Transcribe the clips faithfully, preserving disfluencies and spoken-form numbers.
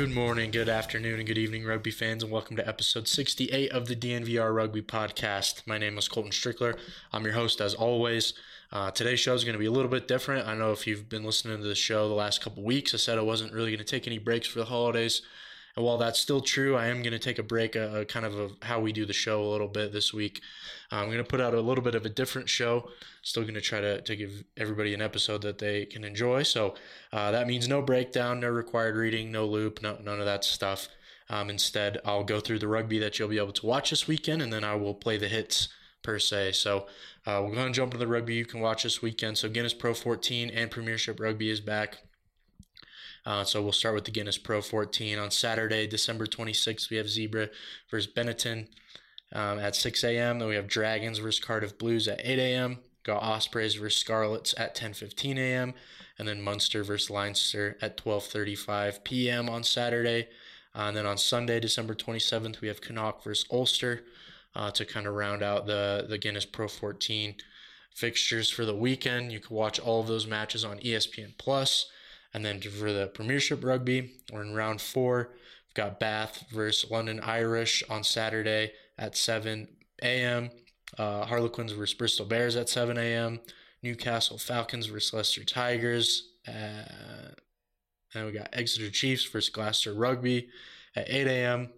Good morning, good afternoon, and good evening, rugby fans, and welcome to episode sixty-eight of the D N V R Rugby Podcast. My name is Colton Strickler. I'm your host, as always. Uh, today's show is going to be a little bit different. I know if you've been listening to the show the last couple weeks, I said I wasn't really going to take any breaks for the holidays. And while that's still true, I am going to take a break, uh, kind of a, how we do the show a little bit this week. Uh, I'm going to put out a little bit of a different show. Still going to try to, to give everybody an episode that they can enjoy. So uh, that means no breakdown, no required reading, no loop, no, none of that stuff. Um, instead, I'll go through the rugby that you'll be able to watch this weekend, and then I will play the hits per se. So uh, we're going to jump into the rugby you can watch this weekend. So Guinness Pro fourteen and Premiership Rugby is back. Uh, so we'll start with the Guinness Pro fourteen. On Saturday, December twenty-sixth, we have Zebra versus Benetton um, at six a.m. Then we have Dragons versus Cardiff Blues at eight a.m. Got Ospreys versus Scarlets at ten fifteen a.m. And then Munster versus Leinster at twelve thirty-five p.m. on Saturday. Uh, and then on Sunday, December twenty-seventh, we have Connacht versus Ulster uh, to kind of round out the, the Guinness Pro fourteen fixtures for the weekend. You can watch all of those matches on E S P N Plus. And then for the Premiership Rugby, we're in round four. We've got Bath versus London Irish on Saturday at seven a.m. Uh, Harlequins versus Bristol Bears at seven a.m. Newcastle Falcons versus Leicester Tigers. Uh, and we got Exeter Chiefs versus Gloucester Rugby at eight a.m.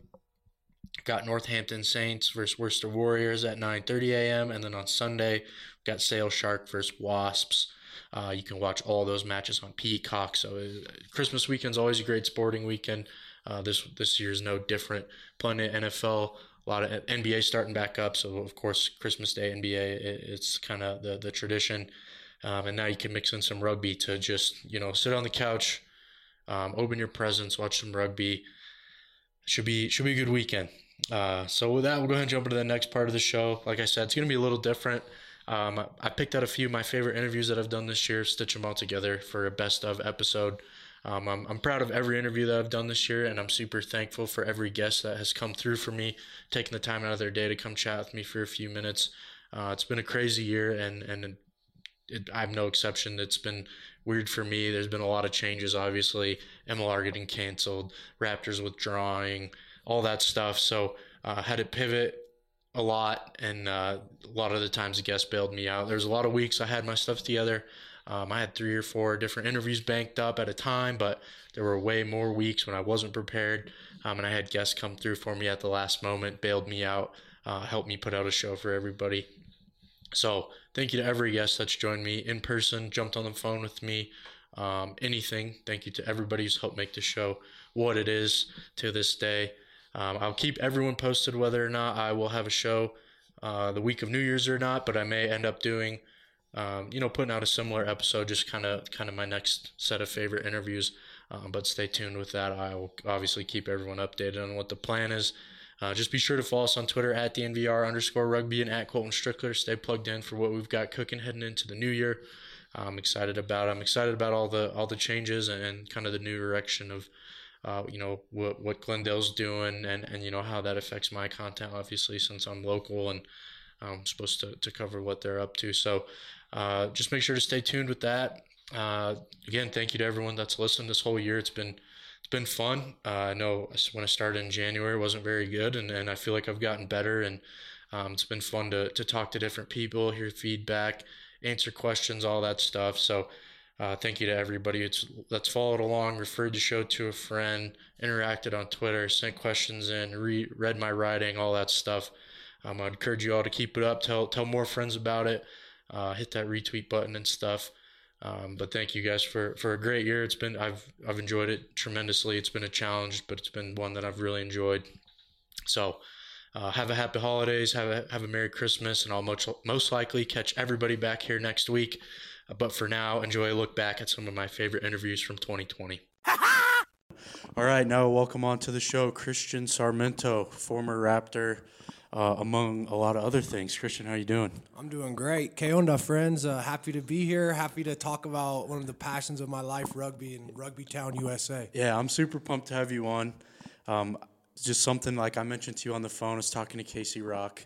Got Northampton Saints versus Worcester Warriors at nine thirty a.m. And then on Sunday, we've got Sale Shark versus Wasps. Uh, you can watch all those matches on Peacock. So uh, Christmas weekend's always a great sporting weekend. Uh, this this year is no different. Plenty of N F L, a lot of N B A starting back up. So of course Christmas Day N B A, it, it's kind of the the tradition. Um, and now you can mix in some rugby to just you know sit on the couch, um, open your presents, watch some rugby. Should be should be a good weekend. Uh, so with that, we'll go ahead and jump into the next part of the show. Like I said, it's gonna be a little different. Um, I picked out a few of my favorite interviews that I've done this year, stitch them all together for a best of episode. Um, I'm, I'm proud of every interview that I've done this year, and I'm super thankful for every guest that has come through for me, taking the time out of their day to come chat with me for a few minutes. Uh, it's been a crazy year, and, and it, I'm no exception. It's been weird for me. There's been a lot of changes, obviously. M L R getting canceled, Raptors withdrawing, all that stuff. So I uh, had to pivot a lot, and uh, a lot of the times the guests bailed me out. There's a lot of weeks I had my stuff together. Um, I had three or four different interviews banked up at a time, but there were way more weeks when I wasn't prepared, um, and I had guests come through for me at the last moment, bailed me out, uh, helped me put out a show for everybody. So thank you to every guest that's joined me in person, jumped on the phone with me, um, anything. Thank you to everybody who's helped make the show what it is to this day. Um, I'll keep everyone posted whether or not I will have a show uh, the week of New Year's or not, but I may end up doing, um, you know, putting out a similar episode, just kind of kind of my next set of favorite interviews. Um, but stay tuned with that. I will obviously keep everyone updated on what the plan is. Uh, just be sure to follow us on Twitter at DNVR underscore rugby and at Colton Strickler. Stay plugged in for what we've got cooking heading into the new year. I'm excited about I'm excited about all the all the changes and, and kind of the new direction of Uh, you know, what what Glendale's doing and, and, you know, how that affects my content, obviously, since I'm local and I'm supposed to, to cover what they're up to. So uh, just make sure to stay tuned with that. Uh, again, thank you to everyone that's listened this whole year. It's been it's been fun. Uh, I know when I started in January, it wasn't very good, and, and I feel like I've gotten better. And um, it's been fun to, to talk to different people, hear feedback, answer questions, all that stuff. So Uh, thank you to everybody it's, that's followed along, referred the show to a friend, interacted on Twitter, sent questions in, re- read my writing, all that stuff. Um, I encourage you all to keep it up, tell tell more friends about it, uh, hit that retweet button and stuff. Um, but thank you guys for, for a great year. It's been I've I've enjoyed it tremendously. It's been a challenge, but it's been one that I've really enjoyed. So uh, have a happy holidays, have a have a Merry Christmas, and I'll most most likely catch everybody back here next week. But for now, enjoy a look back at some of my favorite interviews from twenty twenty. All right, now welcome on to the show, Christian Sarmento, former Raptor, uh, among a lot of other things. Christian, how you doing? I'm doing great. Que onda, friends? Uh, happy to be here. Happy to talk about one of the passions of my life, rugby in Rugby Town, U S A. Yeah, I'm super pumped to have you on. Um, just something like I mentioned to you on the phone. I was talking to Casey Rock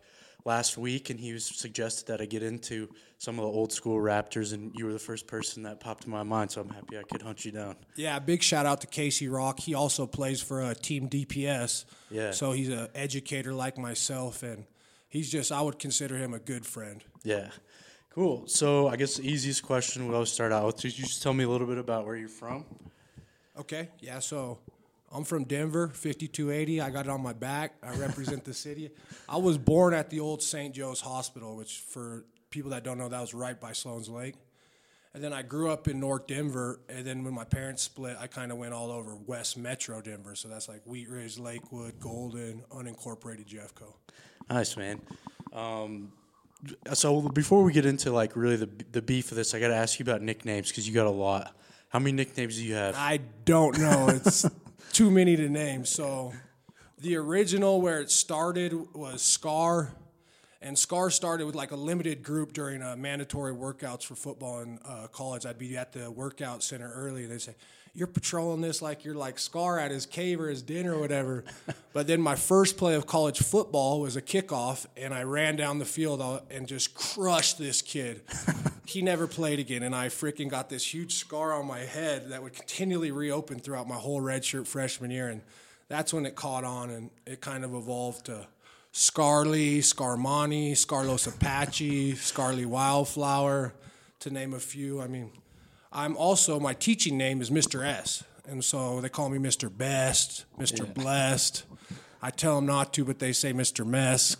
last week, and he was suggested that I get into some of the old school Raptors, and you were the first person that popped in my mind, so I'm happy I could hunt you down. Yeah, big shout out to Casey Rock. He also plays for uh, Team D P S. Yeah. So he's an educator like myself, and he's just, I would consider him a good friend. Yeah. Cool. So I guess the easiest question we'll always start out with, could you just tell me a little bit about where you're from? Okay, yeah, so I'm from Denver, fifty-two eighty. I got it on my back. I represent the city. I was born at the old Saint Joe's Hospital, which for people that don't know, that was right by Sloan's Lake. And then I grew up in North Denver, and then when my parents split, I kind of went all over West Metro Denver. So that's like Wheat Ridge, Lakewood, Golden, unincorporated Jeffco. Nice, man. Um, so before we get into like really the the beef of this, I got to ask you about nicknames because you got a lot. How many nicknames do you have? I don't know. It's too many to name. So the original where it started was Scar. And Scar started with like a limited group during uh, mandatory workouts for football in uh, college. I'd be at the workout center early, and they'd say, "You're patrolling this like you're like Scar at his cave or his dinner or whatever." But then my first play of college football was a kickoff, and I ran down the field and just crushed this kid. He never played again, and I freaking got this huge scar on my head that would continually reopen throughout my whole redshirt freshman year. And that's when it caught on, and it kind of evolved to Scarly, Scarmani, Scarlos Apache, Scarly Wildflower, to name a few. I mean, I'm also, my teaching name is Mister S, and so they call me Mister Best, Mister Yeah. Blessed. I tell them not to, but they say Mister Mess.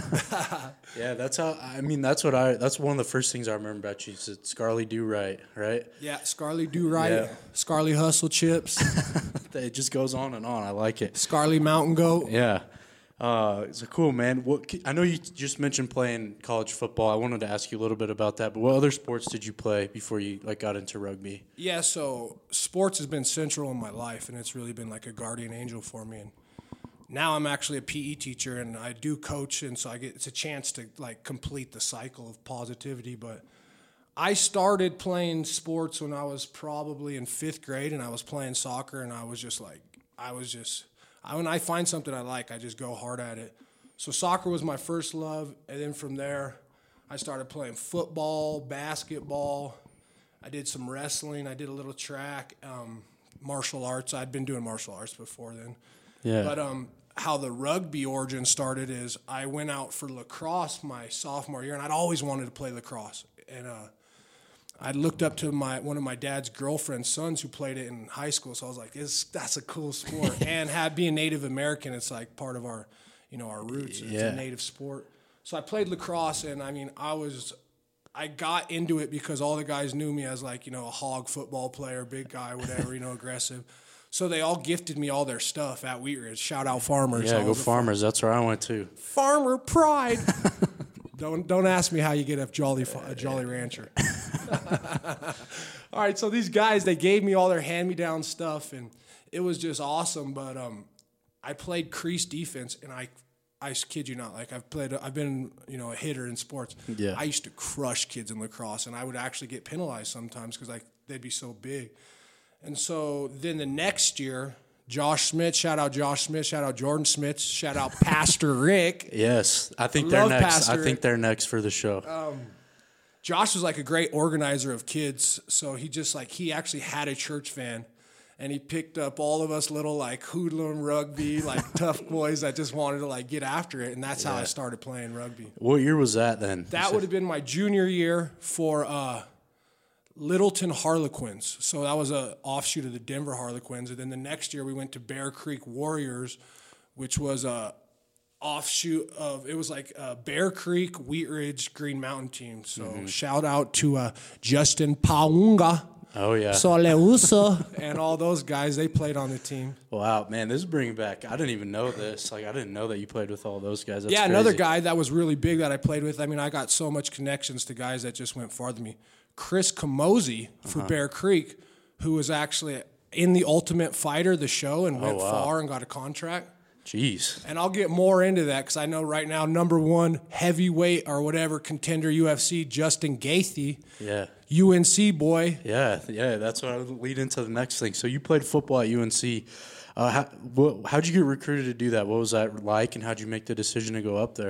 Yeah, that's how, I mean, that's what I, that's one of the first things I remember about you. Is Scarly Do Right, right? Yeah, Scarly Do Right, Yeah. Scarly Hustle Chips, It just goes on and on. I like it. Scarly Mountain Goat. Yeah. Uh, it's a cool, man. What, I know you just mentioned playing college football. I wanted to ask you a little bit about that, but what other sports did you play before you like got into rugby? Yeah, so sports has been central in my life, and it's really been like a guardian angel for me. And now I'm actually a P E teacher, and I do coach, and so I get it's a chance to like complete the cycle of positivity. But I started playing sports when I was probably in fifth grade, and I was playing soccer, and I was just like, I was just, I, when I find something I like, I just go hard at it. So soccer was my first love, and then from there, I started playing football, basketball. I did some wrestling. I did a little track, um, martial arts. I'd been doing martial arts before then. Yeah. But um, how the rugby origin started is I went out for lacrosse my sophomore year, and I'd always wanted to play lacrosse. And uh, I looked up to my one of my dad's girlfriend's sons who played it in high school, so I was like, it's, that's a cool sport. And had being Native American, it's like part of our, you know, our roots. It's Yeah. a native sport. So I played lacrosse, and I mean, I was, I got into it because all the guys knew me as like, you know, a hog football player, big guy, whatever, you know, aggressive. So they all gifted me all their stuff at Wheat Ridge. Shout out Farmers. Yeah, I go was a Farmers. That's where I went to. Farmer pride. don't don't ask me how you get a Jolly a Jolly Rancher. All right, so these guys, they gave me all their hand-me-down stuff, and it was just awesome. But um, I played crease defense, and I, I kid you not, like I've played, I've been, you know, a hitter in sports. Yeah. I used to crush kids in lacrosse, and I would actually get penalized sometimes because like they'd be so big. And so then the next year, Josh Smith, shout out Josh Smith, shout out Jordan Smith, shout out Pastor Rick. Yes, I think I they're love next. Pastor I Rick. think they're next for the show. Josh was like a great organizer of kids, so he just like, he actually had a church van, and he picked up all of us little like hoodlum rugby, like tough boys that just wanted to like get after it, and that's how I started playing rugby. What year was that then? That would have been my junior year for uh, Littleton Harlequins. So that was a offshoot of the Denver Harlequins. And then the next year we went to Bear Creek Warriors, which was a offshoot of, it was like uh, Bear Creek, Wheat Ridge, Green Mountain team. So Mm-hmm. shout out to uh, Justin Paunga, Oh yeah. Soleusa, and all those guys. They played on the team. Wow, man, this is bringing back. I didn't even know this. Like, I didn't know that you played with all those guys. That's yeah, crazy. another guy that was really big that I played with. I mean, I got so much connections to guys that just went farther than me. Chris Camozzi for Uh-huh. Bear Creek, who was actually in the Ultimate Fighter, the show, and went Oh, wow. far and got a contract. Jeez. And I'll get more into that because I know right now number one heavyweight or whatever contender U F C, Justin Gaethje, Yeah. U N C boy. Yeah, yeah, that's what I would lead into the next thing. So you played football at U N C. Uh, how, what, how'd you get recruited to do that? What was that like, and how'd you make the decision to go up there?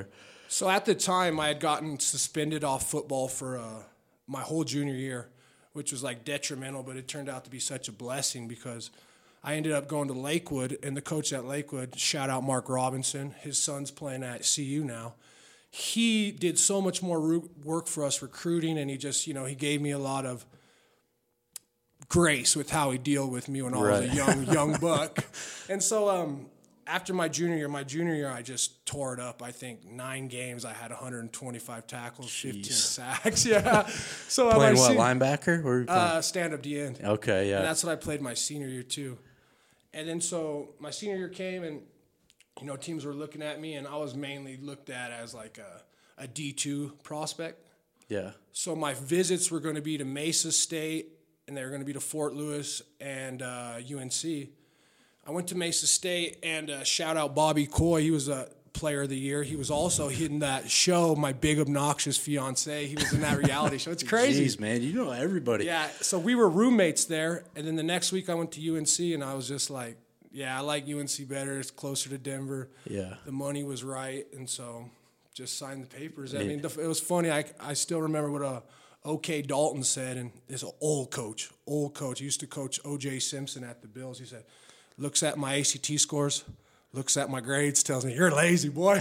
So at the time, I had gotten suspended off football for uh, my whole junior year, which was like detrimental, but it turned out to be such a blessing because I ended up going to Lakewood, and the coach at Lakewood, shout out Mark Robinson, his son's playing at C U now. He did so much more work for us recruiting, and he just, you know, he gave me a lot of grace with how he dealt with me when I right. was a young, young buck. And so um, after my junior year, my junior year, I just tore it up. I think nine games, I had one hundred twenty-five tackles, Jeez. fifteen sacks. Yeah. So uh, playing what, se- linebacker? Or uh, stand-up D end. Okay, yeah. And that's what I played my senior year too. And then so my senior year came, and you know, teams were looking at me, and I was mainly looked at as like a, a D two prospect. Yeah. So my visits were going to be to Mesa State, and they were going to be to Fort Lewis and uh, U N C. I went to Mesa State, and uh, shout out Bobby Coy. He was a player of the year. He was also in that show, My Big Obnoxious Fiancé. He was in that reality show. It's crazy. Jeez, man, you know everybody. Yeah, so we were roommates there, and then the next week I went to U N C, and I was just like, yeah, I like U N C better. It's closer to Denver. Yeah. The money was right, and so just signed the papers. I yeah. mean, the, it was funny. I, I still remember what a O K Dalton said, and this old coach, old coach. He used to coach O J Simpson at the Bills. He said, looks at my A C T scores, looks at my grades, tells me, you're lazy, boy.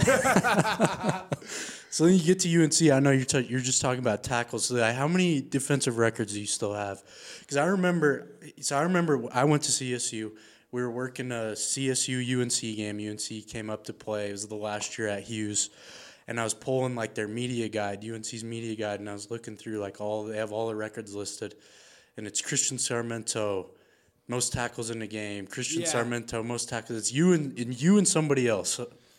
So then you get to U N C. I know you're t- you're just talking about tackles. So like, how many defensive records do you still have? Because I remember, so I remember I went to C S U. We were working a C S U U N C game. U N C came up to play. It was the last year at Hughes. And I was pulling like their media guide, U N C's media guide, and I was looking through like all, they have all the records listed. And it's Christian Sarmento, most tackles in the game. Christian yeah. Sarmento, most tackles. It's you and, and you and somebody else.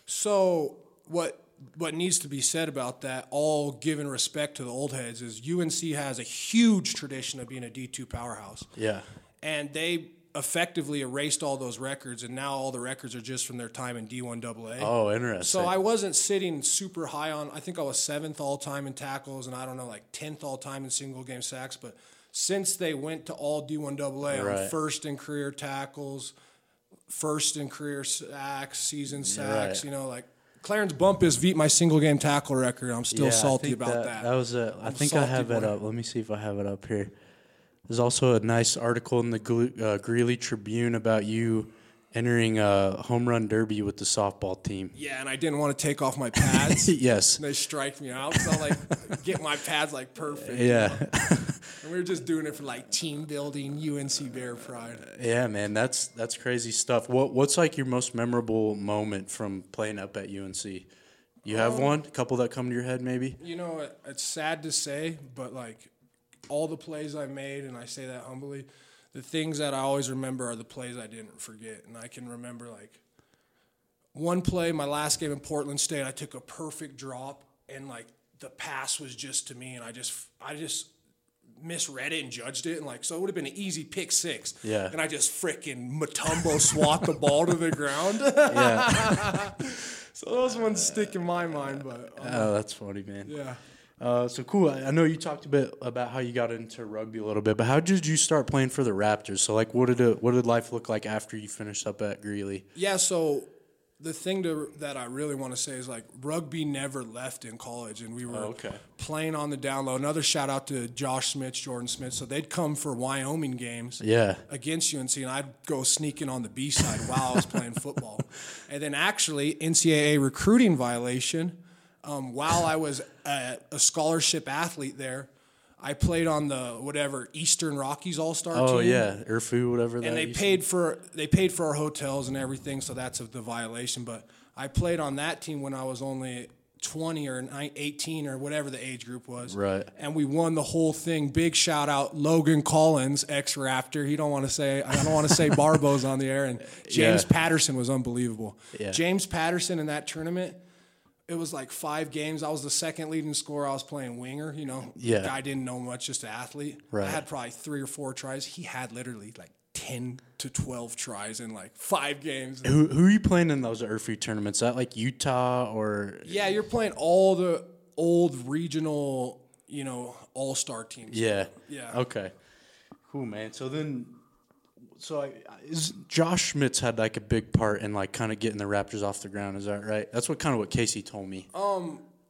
So what what needs to be said about that, all given respect to the old heads, is U N C has a huge tradition of being a D two powerhouse. Yeah. And they effectively erased all those records, and now all the records are just from their time in D one double A. Oh, interesting. So I wasn't sitting super high on, I think I was seventh all-time in tackles, and I don't know, like tenth all-time in single-game sacks, but since they went to all D one double A, right. I'm first in career tackles, first in career sacks, season sacks, right. you know, like Clarence Bumpus beat my single-game tackle record. I'm still yeah, salty about that. that. That was a, I think I have it up. Let me see if I have it up here. There's also a nice article in the uh, Greeley Tribune about you entering a home run derby with the softball team. Yeah, and I didn't want to take off my pads. Yes. And they striked me out, so I like get my pads like perfect. Yeah. You know? And we were just doing it for like team building, U N C Bear pride. Yeah, man, that's that's crazy stuff. What what's like your most memorable moment from playing up at U N C? You have um, one? A couple that come to your head, maybe? You know, it, it's sad to say, but like all the plays I made, and I say that humbly, the things that I always remember are the plays I didn't forget. And I can remember like one play, my last game in Portland State, I took a perfect drop, and like the pass was just to me, and I just I just misread it and judged it, and like so it would have been an easy pick six. Yeah. And I just freaking Mutombo swat the ball to the ground. Yeah. So those ones stick in my mind, but um, oh, that's funny, man. Yeah. Uh, so cool. I know you talked a bit about how you got into rugby a little bit, but how did you start playing for the Raptors? So, like, what did it, what did life look like after you finished up at Greeley? Yeah. So the thing to, that I really want to say is like rugby never left in college, and we were oh, okay. playing on the down low. Another shout out to Josh Smith, Jordan Smith. So they'd come for Wyoming games yeah. against U N C, and I'd go sneaking on the B side while I was playing football. And then actually N C double A recruiting violation. Um, while I was a, a scholarship athlete there, I played on the whatever Eastern Rockies All-Star oh, team. Oh yeah, I R F U, whatever. And that they paid for they paid for our hotels and everything, so that's a, the violation. But I played on that team when I was only twenty or eighteen or whatever the age group was. Right. And we won the whole thing. Big shout out Logan Collins, ex-Raptor. He don't want to say I don't want to say Barbos on the air. And James yeah. Patterson was unbelievable. Yeah. James Patterson in that tournament. It was like five games. I was the second leading scorer. I was playing winger. You know, yeah. the guy didn't know much, just an athlete. Right. I had probably three or four tries. He had literally like ten to twelve tries in like five games. Who who are you playing in those R F U tournaments? Is that like Utah or? Yeah, you're playing all the old regional, you know, all-star teams. Yeah. Yeah. Okay. Cool, man. So then. So I, is Josh Schmitz had like a big part in like kind of getting the Raptors off the ground. Is that right? That's what kind of what Casey told me. Um,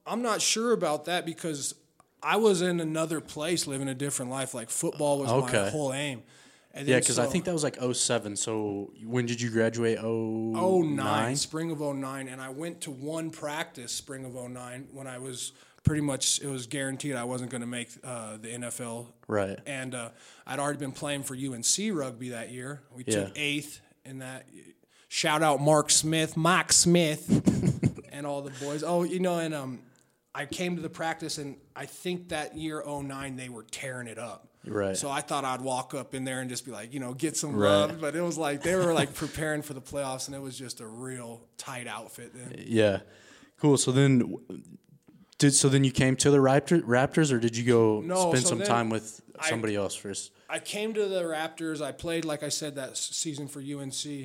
I'm not sure about that because I was in another place living a different life. Like football was Okay. my whole aim. And Yeah, then because so, I think that was like oh seven. So when did you graduate? oh oh nine, nine? spring of oh nine, and I went to one practice spring of oh nine when I was pretty much, it was guaranteed I wasn't going to make uh, the N F L. Right. And uh, I'd already been playing for U N C rugby that year. We Yeah. took eighth in that. Shout out Mark Smith, Mike Smith, and all the boys. Oh, you know, and um, I came to the practice, and I think that year oh nine they were tearing it up. Right. So I thought I'd walk up in there and just be like, you know, get some Right. love. But it was like they were like preparing for the playoffs, and it was just a real tight outfit then. Yeah. Cool. So then, did so then you came to the Raptor, Raptors, or did you go No, spend so some then time with I- somebody else first? I came to the Raptors. I played, like I said, that s- season for U N C.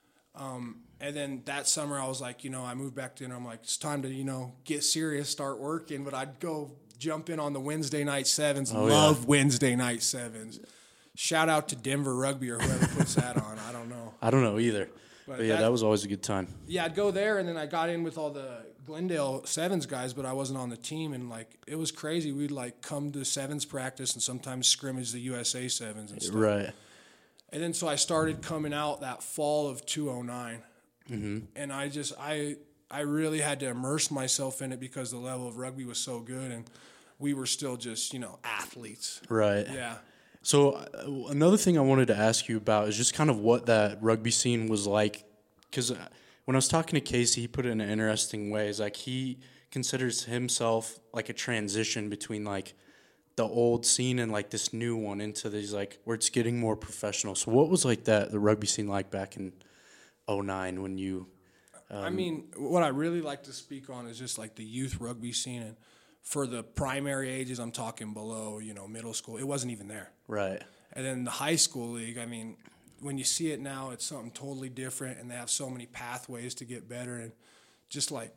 Um, and then that summer, I was like, you know, I moved back to Denver. I'm like, it's time to, you know, get serious, start working. But I'd go jump in on the Wednesday night sevens. Oh, Love yeah. Wednesday night sevens. Shout out to Denver Rugby or whoever puts that on. I don't know. I don't know either. But But, yeah, that- that was always a good time. Yeah, I'd go there, and then I got in with all the Glendale sevens guys, but I wasn't on the team, and like it was crazy. We'd like come to sevens practice and sometimes scrimmage the U S A sevens and stuff. Right. And then so I started coming out that fall of two oh nine, mm-hmm. and I just I I really had to immerse myself in it because the level of rugby was so good, and we were still just you know athletes. Right. Yeah. So uh, another thing I wanted to ask you about is just kind of what that rugby scene was like, because when I was talking to Casey, he put it in an interesting way. Is like he considers himself like a transition between like the old scene and like this new one into these like where it's getting more professional. So what was like that the rugby scene like back in oh nine when you? Um, I mean, what I really like to speak on is just like the youth rugby scene, and for the primary ages, I'm talking below, you know, middle school. It wasn't even there. Right. And then the high school league, I mean, when you see it now, it's something totally different, and they have so many pathways to get better. And just like,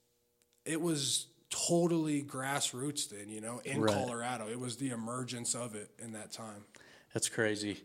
it was totally grassroots then, you know, in Right. Colorado. It was the emergence of it in that time. That's crazy.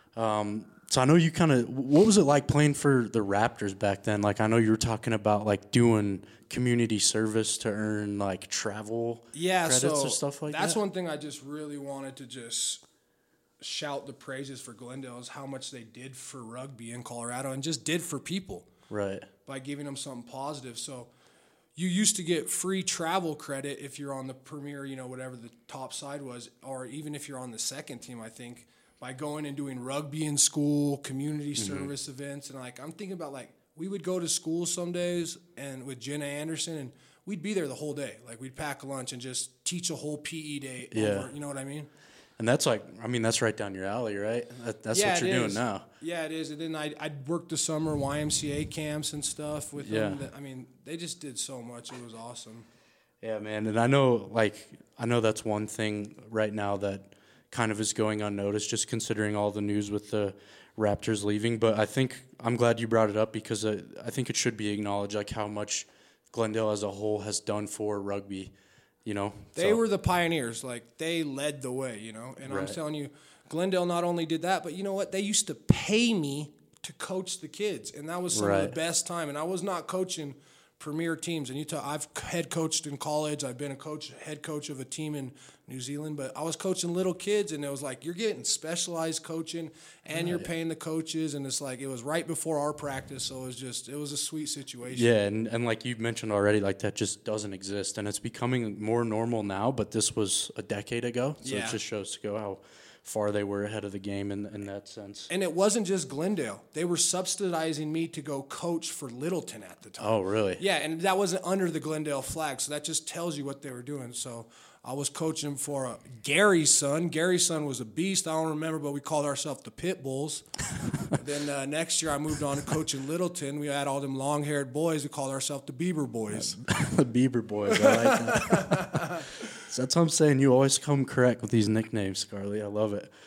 Um, so I know you kind of, what was it like playing for the Raptors back then? Like, I know you were talking about like doing community service to earn like travel Yeah, credits so or stuff like that's that. one thing I just really wanted to just shout the praises for Glendale is how much they did for rugby in Colorado and just did for people Right. by giving them something positive. So you used to get free travel credit if you're on the premier, you know, whatever the top side was, or even if you're on the second team, I think, by going and doing rugby in school, community Mm-hmm. service events. And like, I'm thinking about like, we would go to school some days and with Jenna Anderson, and we'd be there the whole day. Like we'd pack a lunch and just teach a whole P E day. Yeah. Over, you know what I mean? And that's like, I mean, that's right down your alley, right? That, that's Yeah, what you're it doing is. now. Yeah, it is. And then I'd, I'd work the summer Y M C A camps and stuff with them. Yeah. That, I mean, they just did so much. It was awesome. Yeah, man. And I know, like, I know that's one thing right now that kind of is going unnoticed, just considering all the news with the Raptors leaving. But I think I'm glad you brought it up because I, I think it should be acknowledged, like, how much Glendale as a whole has done for rugby, you know? They So- were the pioneers. Like, they led the way, you know? And I'm Right. telling you, Glendale not only did that, but you know what? They used to pay me to coach the kids. And that was some of Right. the best time. And I was not coaching premier teams. And you talk, I've head coached in college. I've been a coach, head coach of a team in New Zealand. But I was coaching little kids, and it was like, you're getting specialized coaching, and you're paying the coaches. And it's like, it was right before our practice. So it was just, it was a sweet situation. Yeah, and, and like you mentioned already, like that just doesn't exist. And it's becoming more normal now, but this was a decade ago. So Yeah. it just shows to go how far they were ahead of the game in, in that sense. And it wasn't just Glendale. They were subsidizing me to go coach for Littleton at the time. Oh, really? Yeah, and that wasn't under the Glendale flag, so that just tells you what they were doing. So I was coaching for uh, Gary's son. Gary's son was a beast. I don't remember, but we called ourselves the Pit Bulls. Then uh, next year I moved on to coaching Littleton. We had all them long-haired boys. We called ourselves the Bieber Boys. The Bieber Boys. I like that. So that's what I'm saying. You always come correct with these nicknames, Scarlett. I love it.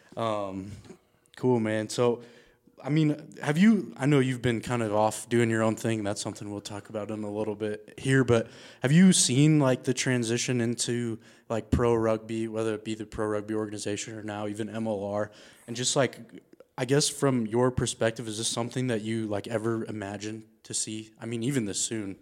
Um, cool, man. So, I mean, have you, I know you've been kind of off doing your own thing. That's something we'll talk about in a little bit here, but have you seen like the transition into like pro rugby, whether it be the pro rugby organization or now even M L R, and just like, I guess from your perspective, is this something that you like ever imagined to see? I mean, even this soon.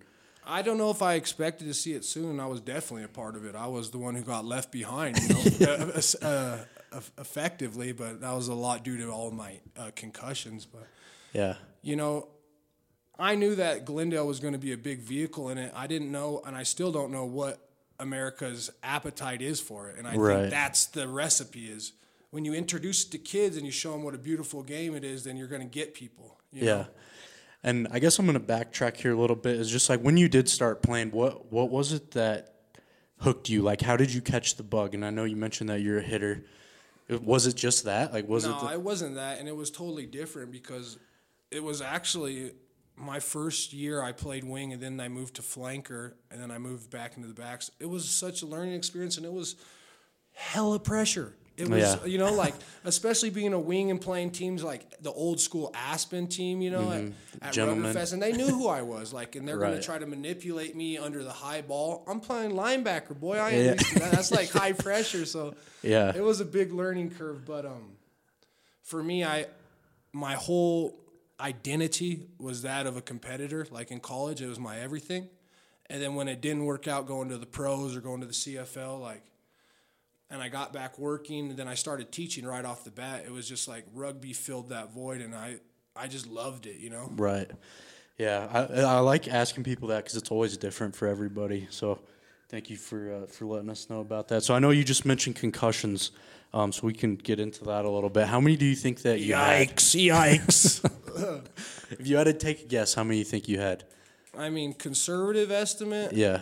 I don't know if I expected to see it soon. I was definitely a part of it. I was the one who got left behind, you know, uh, uh, uh, effectively, but that was a lot due to all of my uh, concussions. But Yeah. you know, I knew that Glendale was going to be a big vehicle in it. I didn't know, and I still don't know what America's appetite is for it. And I Right. think that's the recipe is when you introduce it to kids and you show them what a beautiful game it is, then you're going to get people. You Yeah. know? And I guess I'm going to backtrack here a little bit. Is just like when you did start playing, what what was it that hooked you? Like, how did you catch the bug? And I know you mentioned that you're a hitter. It- Was it just that? Like, was no, it? The- it wasn't that, and it was totally different because it was actually my first year I played wing, and then I moved to flanker, and then I moved back into the backs. It was such a learning experience, and it was hella pressure. It was, Yeah. you know, like, especially being a wing and playing teams like the old school Aspen team, you know, at, at Gentlemen. Ruggerfest, and they knew who I was, like, and they're going Right. to try to manipulate me under the high ball. I'm playing linebacker, boy. I ain't Yeah. used to that. That's like high pressure, so Yeah. it was a big learning curve. But um, for me, I my whole identity was that of a competitor. Like in college, it was my everything, and then when it didn't work out, going to the pros or going to the C F L, like. And I got back working, and then I started teaching right off the bat. It was just like rugby filled that void, and I, I just loved it, you know? Right. Yeah. I I like asking people that because it's always different for everybody. So thank you for uh, for letting us know about that. So I know you just mentioned concussions, um, so we can get into that a little bit. How many do you think that you had? yikes. If you had to take a guess, how many do you think you had? I mean, conservative estimate, Yeah.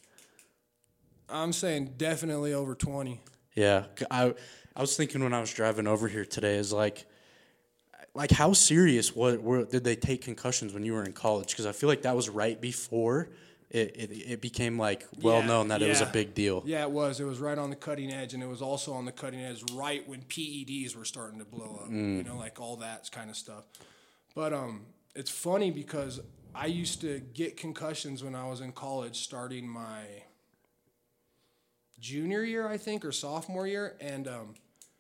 I'm saying definitely over twenty. Yeah, c- I I was thinking when I was driving over here today is like, like how serious what were did they take concussions when you were in college? Because I feel like that was right before it it, it became like well Yeah, known that it was a yeah. big deal. Yeah, it was. It was right on the cutting edge, and it was also on the cutting edge right when P E Ds were starting to blow up. You know, like all that kind of stuff. But um, it's funny because I used to get concussions when I was in college, starting my junior year, I think, or sophomore year. And um,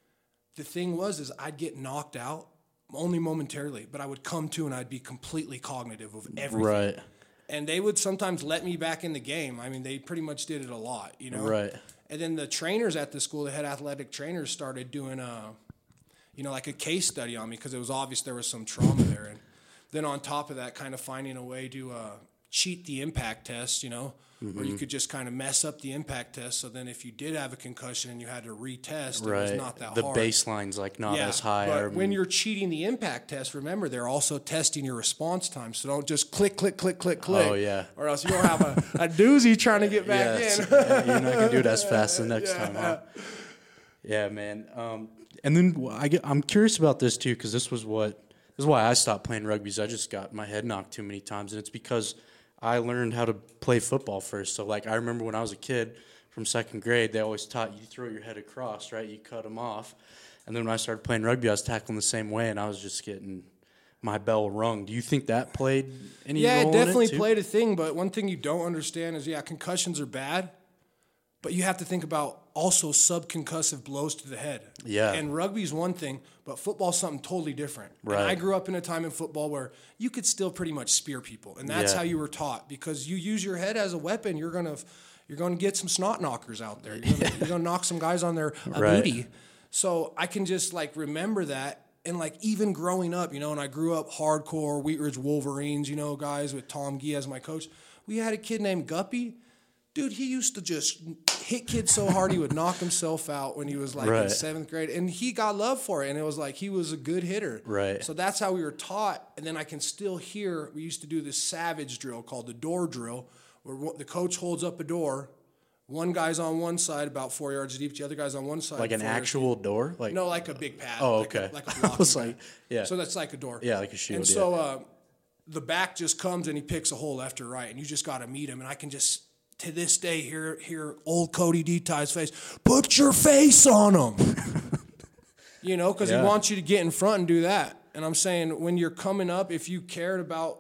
the thing was, is I'd get knocked out only momentarily, but I would come to and I'd be completely cognitive of everything. Right, And they would sometimes let me back in the game. I mean, they pretty much did it a lot, you know? right, And then the trainers at the school, the head athletic trainers, started doing a, you know, like a case study on me because it was obvious there was some trauma there. And then on top of that, kind of finding a way to uh, cheat the impact test, you know, Mm-hmm. or you could just kind of mess up the impact test. So then if you did have a concussion and you had to retest, it right. was not that the hard. baseline's like not Yeah, as high. but or- when you're cheating the impact test, remember they're also testing your response time. So don't just click, click, click, click, click. Oh, yeah. Or else you'll have a, a doozy trying to get back yeah, in. it's- yeah, you're not gonna do it as fast the next Yeah. time, huh? Yeah, man. Um, and then w- I get, I'm curious about this too because this was what this is why I stopped playing rugby. Is I just got my head knocked too many times, and it's because I learned how to play football first. So like I remember when I was a kid from second grade, they always taught you throw your head across, right? You cut them off, and then when I started playing rugby, I was tackling the same way, and I was just getting my bell rung. Do you think that played any Yeah, role it definitely in it too? played a thing. But one thing you don't understand is, yeah, concussions are bad, but you have to think about also subconcussive blows to the head. Yeah. And rugby's one thing, but football's something totally different. Right. And I grew up in a time in football where you could still pretty much spear people, and that's Yeah. how you were taught because you use your head as a weapon. You're gonna you're gonna get some snot knockers out there. You're gonna, you're gonna knock some guys on their uh, Right. booty. So I can just like remember that. And like even growing up, you know, and I grew up hardcore Wheat Ridge Wolverines, you know, guys with Tom Gee as my coach. We had a kid named Guppy. Dude, he used to just hit kids so hard he would knock himself out when he was like in Right. seventh grade. And he got love for it. And it was like he was a good hitter. Right. So that's how we were taught. And then I can still hear, we used to do this savage drill called the door drill, where one- the coach holds up a door. One guy's on one side, about four yards deep. The other guy's on one side. Like an four yards actual door? Like deep. No, like a big pad. Oh, like okay. A, like a I blocking was pad. like, yeah. So that's like a door. Yeah, like a shield, And yeah. so uh, the back just comes and he picks a hole left or right, and you just got to meet him. And I can just, to this day, hear hear old Cody D-Ty's face. Put your face on him. You know, because Yeah. he wants you to get in front and do that. And I'm saying when you're coming up, if you cared about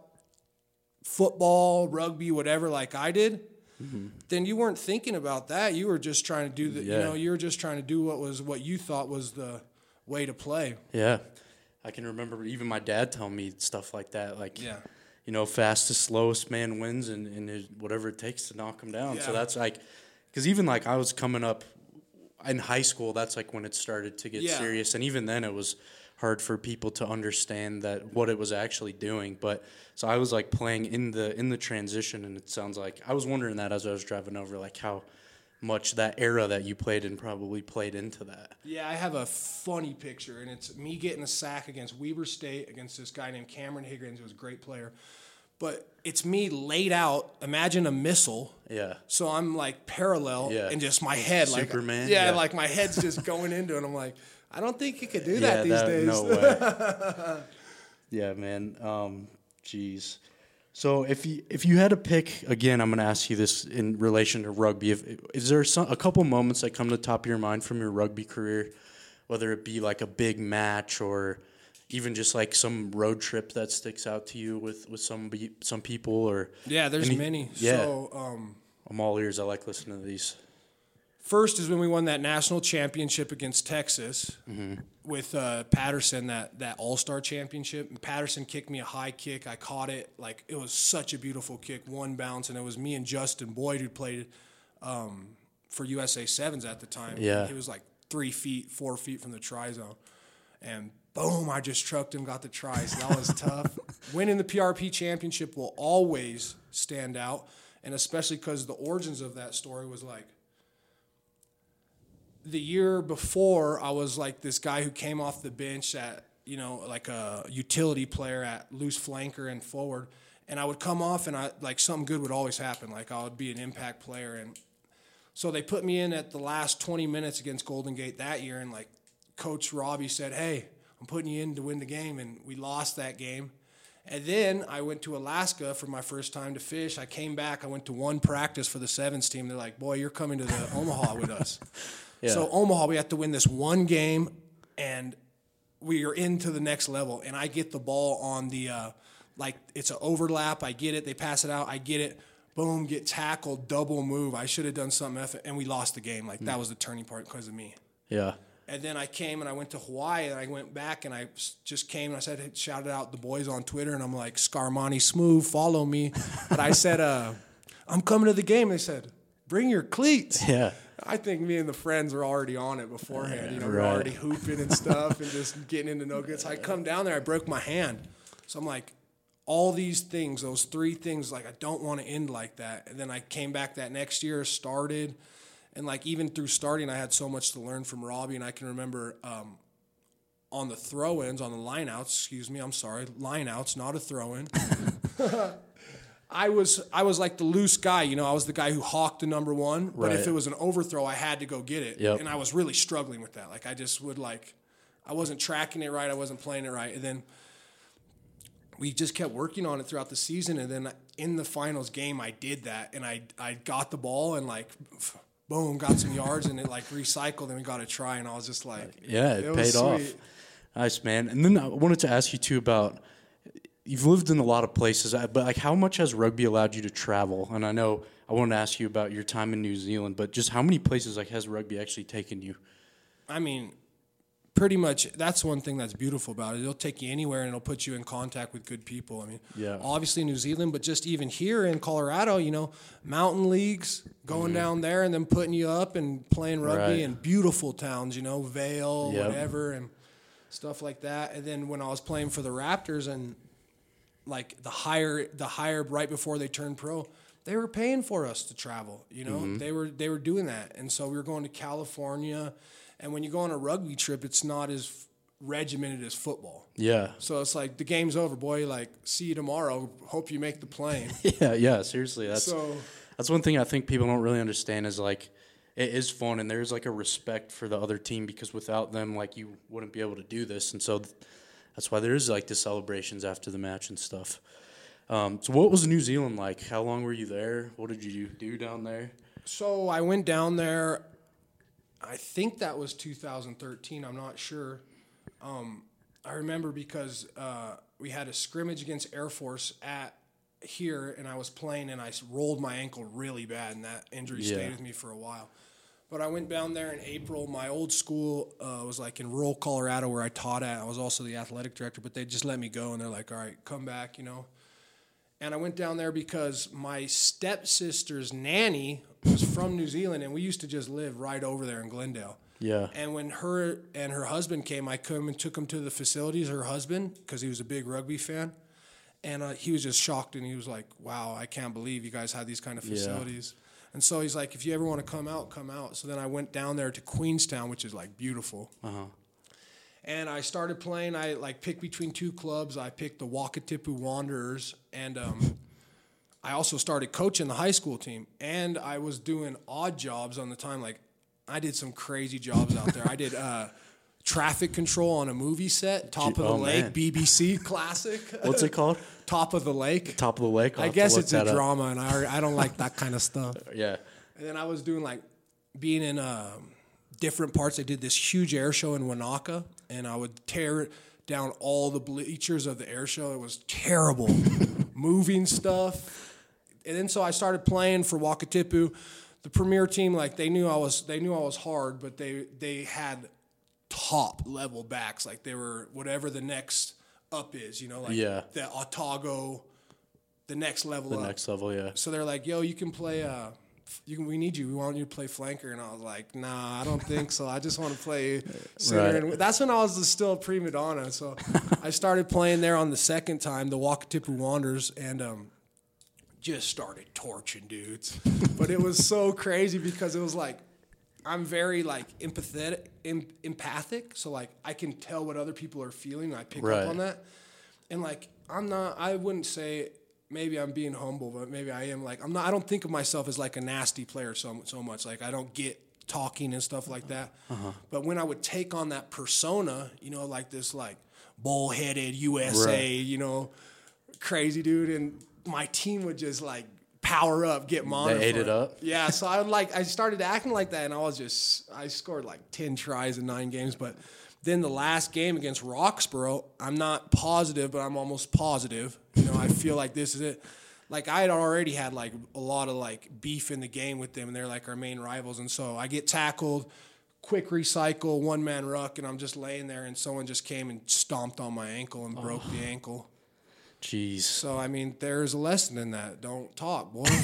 football, rugby, whatever, like I did, mm-hmm. then you weren't thinking about that. You were just trying to do the, Yeah. you know, you were just trying to do what was what you thought was the way to play. Yeah. I can remember even my dad telling me stuff like that. Like, Yeah. you know, fastest, slowest man wins, and, and it, whatever it takes to knock him down. Yeah. So that's like, because even like I was coming up in high school, that's like when it started to get Yeah. serious, and even then it was hard for people to understand that what it was actually doing. But so I was like playing in the in the transition, and it sounds like I was wondering that as I was driving over, like how much that era that you played in probably played into that. Yeah, I have a funny picture, and it's me getting a sack against Weber State against this guy named Cameron Higgins, who was a great player. But it's me laid out. Imagine a missile. Yeah. So I'm like parallel, Yeah. and just my head, like Superman? Yeah, Yeah. like my head's just going into it. I'm like, I don't think you could do Yeah, that these that, days. no way. Yeah, man. Um, jeez. So if you if you had to pick again, I'm going to ask you this in relation to rugby. If, is there some, a couple moments that come to the top of your mind from your rugby career, whether it be like a big match or even just like some road trip that sticks out to you with with some be- some people or Yeah, there's any- many. Yeah, So um, I'm all ears. I like listening to these. first is when we won that national championship against Texas Mm-hmm. with uh, Patterson, that, that all-star championship. And Patterson kicked me a high kick. I caught it. Like, it was such a beautiful kick, one bounce. And it was me and Justin Boyd who played um, for U S A Sevens at the time. Yeah. He was like three feet, four feet from the try zone. And boom, I just trucked him, got the try. So that was tough. Winning the P R P championship will always stand out. And especially because the origins of that story was like, the year before, I was like this guy who came off the bench at, you know, like a utility player at loose flanker and forward. And I would come off and I like something good would always happen. Like I would be an impact player. And so they put me in at the last twenty minutes against Golden Gate that year. And like Coach Robbie said, hey, I'm putting you in to win the game. And we lost that game. And then I went to Alaska for my first time to fish. I came back. I went to one practice for the sevens team. They're like, boy, you're coming to the Omaha with us. Yeah. So Omaha, we have to win this one game, and we are into the next level. And I get the ball on the, uh, like, it's an overlap. I get it. They pass it out. I get it. Boom, get tackled, double move. I should have done something, F- and we lost the game. Like, that was the turning point because of me. Yeah. And then I came and I went to Hawaii, and I went back and I s- just came and I said, shouted out the boys on Twitter, and I'm like, Scarmani Smooth, follow me. But I said, uh, I'm coming to the game. They said, bring your cleats. Yeah. I think me and the friends were already on it beforehand. You know, we Right. we're already hooping and stuff and just getting into no good. So I come down there, I broke my hand. So I'm like, all these things, those three things, like I don't want to end like that. And then I came back that next year, started, and like even through starting, I had so much to learn from Robbie. And I can remember um, on the throw-ins, on the lineouts, excuse me, I'm sorry, lineouts, not a throw-in. I was I was like the loose guy, you know. I was the guy who hawked the number one, but Right. if it was an overthrow, I had to go get it, Yep. and I was really struggling with that. Like I just would like, I wasn't tracking it right, I wasn't playing it right, and then we just kept working on it throughout the season, and then in the finals game, I did that, and I I got the ball and like, boom, got some yards, and it like recycled, and we got a try, and I was just like, Yeah, it, it was paid off. sweet. Nice, man. And then I wanted to ask you too about you've lived in a lot of places, uh, but like how much has rugby allowed you to travel? And I know I wanted to ask you about your time in New Zealand, but just how many places like has rugby actually taken you? I mean, pretty much that's one thing that's beautiful about it. It'll take you anywhere and it'll put you in contact with good people. I mean, Yeah. obviously New Zealand, but just even here in Colorado, you know, mountain leagues, going down there and then putting you up and playing rugby Right. in beautiful towns, you know, Vail, Yep. whatever, and stuff like that. And then when I was playing for the Raptors and like the higher, the higher right before they turned pro, they were paying for us to travel. You know, Mm-hmm. they were they were doing that, and so we were going to California. And when you go on a rugby trip, it's not as regimented as football. Yeah. So it's like the game's over, boy. Like, see you tomorrow. Hope you make the plane. Yeah, yeah, seriously. That's So that's one thing I think people don't really understand is like it is fun and there's like a respect for the other team because without them like you wouldn't be able to do this. And so th- that's why there is like the celebrations after the match and stuff. Um, so what was New Zealand like? How long were you there? What did you do down there? So I went down there. I think that was two thousand thirteen. I'm not sure. Um, I remember because uh, we had a scrimmage against Air Force at here, and I was playing, and I s- rolled my ankle really bad, and that injury Yeah. stayed with me for a while. But I went down there in April. My old school uh, was like in rural Colorado where I taught at. I was also the athletic director, but they just let me go, and they're like, all right, come back, you know. And I went down there because my stepsister's nanny was from New Zealand, and we used to just live right over there in Glendale. Yeah. And when her and her husband came, I come and took him to the facilities, her husband, because he was a big rugby fan. And uh, he was just shocked, and he was like, wow, I can't believe you guys had these kind of facilities. Yeah. And so he's like, if you ever want to come out, come out. So then I went down there to Queenstown, which is like beautiful. Uh-huh. And I started playing. I like picked between two clubs. I picked the Wakatipu Wanderers, and um, I also started coaching the high school team. And I was doing odd jobs on the time. Like I did some crazy jobs out there. I did uh, traffic control on a movie set, Top of the oh, Lake, man. B B C classic. What's it called? Top of the Lake. Top of the Lake. I'll I guess it's a drama, up. and I I don't like that kind of stuff. Yeah. And then I was doing like being in um, different parts. I did this huge air show in Wanaka, and I would tear down all the bleachers of the air show. It was terrible, moving stuff. And then so I started playing for Wakatipu. The premier team, like they knew I was, they knew I was hard, but they they had top level backs. Like they were whatever the next up is, you know, like yeah. the Otago, the next level the up. The next level, yeah. So they're like, yo, you can play. Uh, You can, we need you. We want you to play flanker. And I was like, nah, I don't think so. I just want to play center. Right. And that's when I was still a prima donna. So I started playing there on the second time, the Wakatipu Wanderers, and um, just started torching dudes. But it was so crazy because it was like, I'm very like empathetic, em- empathic. So like I can tell what other people are feeling. I pick right. up on that. And like, I'm not, I wouldn't say, maybe I'm being humble, but maybe I am like, I'm not, I don't think of myself as like a nasty player so, so much. Like I don't get talking and stuff like that. Uh-huh. But when I would take on that persona, you know, like this like bullheaded U S A, right. you know, crazy dude. And my team would just like power up, get monitored. They ate it up. Yeah. So I would like, I started acting like that, and I was just, I scored like ten tries in nine games, but then the last game against Roxborough, I'm not positive, but I'm almost positive. You know, I feel like this is it. Like I had already had like a lot of like beef in the game with them, and they're like our main rivals. And so I get tackled, quick recycle, one man ruck, and I'm just laying there, and someone just came and stomped on my ankle and broke oh. the ankle. Jeez. So, I mean, there's a lesson in that. Don't talk, boy.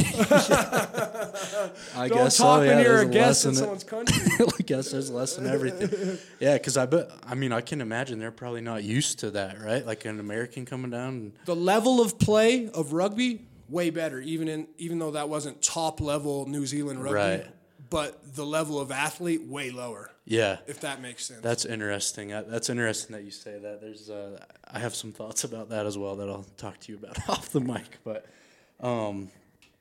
I Don't guess talk so, yeah, when you're a a guest in lesson someone's country. I guess there's a lesson in everything. Yeah, because I bet, I mean, I can imagine they're probably not used to that, right? Like an American coming down. And the level of play of rugby, way better, even in even though that wasn't top level New Zealand rugby. Right. But the level of athlete, way lower. Yeah. If that makes sense. That's interesting. That's interesting that you say that. There's, uh, I have some thoughts about that as well that I'll talk to you about off the mic. But, um,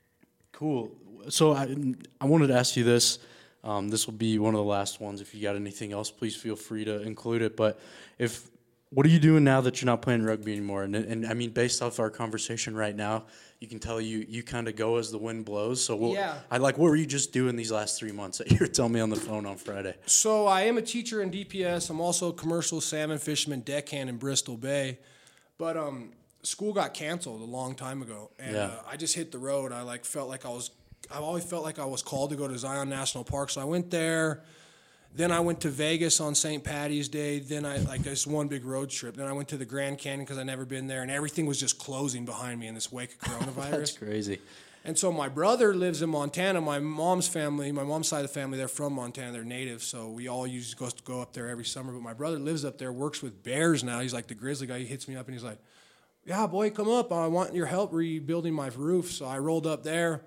cool. So I, I wanted to ask you this. Um, this will be one of the last ones. If you got anything else, please feel free to include it. But if, what are you doing now that you're not playing rugby anymore? And, and I mean, based off our conversation right now, you can tell you you kind of go as the wind blows. So we'll, yeah. I like, what were you just doing these last three months that you were telling me on the phone on Friday? So I am a teacher in D P S. I'm also a commercial salmon fisherman deckhand in Bristol Bay. But um, school got canceled a long time ago. And yeah. uh, I just hit the road. I like felt like I was, I've always felt like I was called to go to Zion National Park. So I went there. Then I went to Vegas on Saint Patty's Day. Then I, like, this one big road trip. Then I went to the Grand Canyon because I'd never been there, and everything was just closing behind me in this wake of coronavirus. That's crazy. And so my brother lives in Montana. My mom's family, my mom's side of the family, they're from Montana. They're natives, so we all used to go, go up there every summer. But my brother lives up there, works with bears now. He's like the grizzly guy. He hits me up, and he's like, yeah, boy, come up. I want your help rebuilding my roof. So I rolled up there,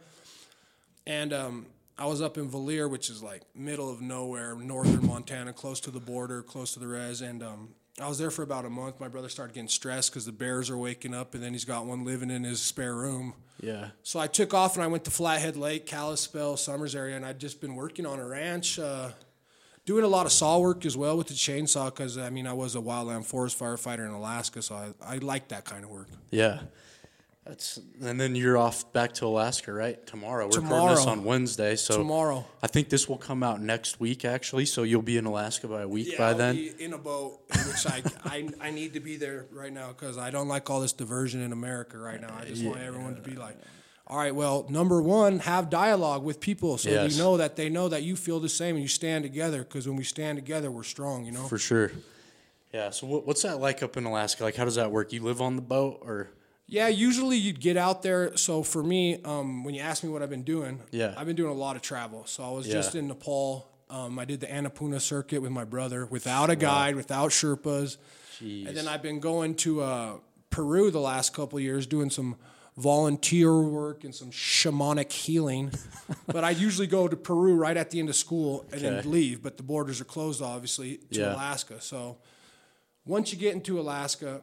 and um, I was up in Valier, which is like middle of nowhere, northern Montana, close to the border, close to the res. And um, I was there for about a month. My brother started getting stressed because the bears are waking up, and then he's got one living in his spare room. Yeah. So I took off, and I went to Flathead Lake, Kalispell, Summers area, and I'd just been working on a ranch, uh, doing a lot of saw work as well with the chainsaw because, I mean, I was a wildland forest firefighter in Alaska, so I, I like that kind of work. Yeah. That's and then you're off back to Alaska, right? Tomorrow. We're Tomorrow. recording this on Wednesday, so tomorrow. I think this will come out next week, actually. So you'll be in Alaska by a week yeah, by I'll then. Be in a boat, which I, I I need to be there right now because I don't like all this diversion in America right now. I just yeah. want everyone to be like, all right, well, number one, have dialogue with people so yes. you know that they know that you feel the same and you stand together. Because when we stand together, we're strong. You know. For sure. Yeah. So what, what's that like up in Alaska? Like, how does that work? You live on the boat or? Yeah, usually you'd get out there. So for me, um, when you ask me what I've been doing, Yeah. I've been doing a lot of travel. So I was Yeah. just in Nepal. Um, I did the Annapurna circuit with my brother without a guide, without Sherpas. Jeez. And then I've been going to uh, Peru the last couple of years doing some volunteer work and some shamanic healing. But I usually go to Peru right at the end of school and Okay. then leave. But the borders are closed, obviously, to Yeah. Alaska. So once you get into Alaska,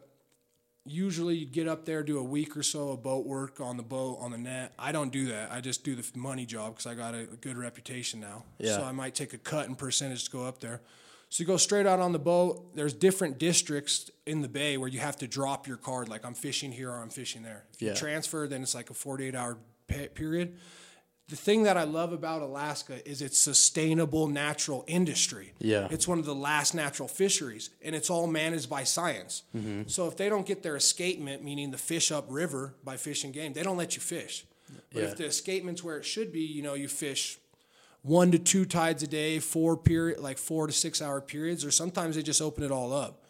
usually you get up there, do a week or so of boat work on the boat, on the net. I don't do that. I just do the money job because I got a, a good reputation now. Yeah. So I might take a cut in percentage to go up there. So you go straight out on the boat. There's different districts in the bay where you have to drop your card, like I'm fishing here or I'm fishing there. If you Yeah. transfer, then it's like a forty-eight hour pe- period. The thing that I love about Alaska is its sustainable natural industry. Yeah. It's one of the last natural fisheries, and it's all managed by science. Mm-hmm. So if they don't get their escapement, meaning the fish upriver by Fish and Game, they don't let you fish. But Yeah. if the escapement's where it should be, you know, you fish one to two tides a day, four period, like four to six hour periods, or sometimes they just open it all up.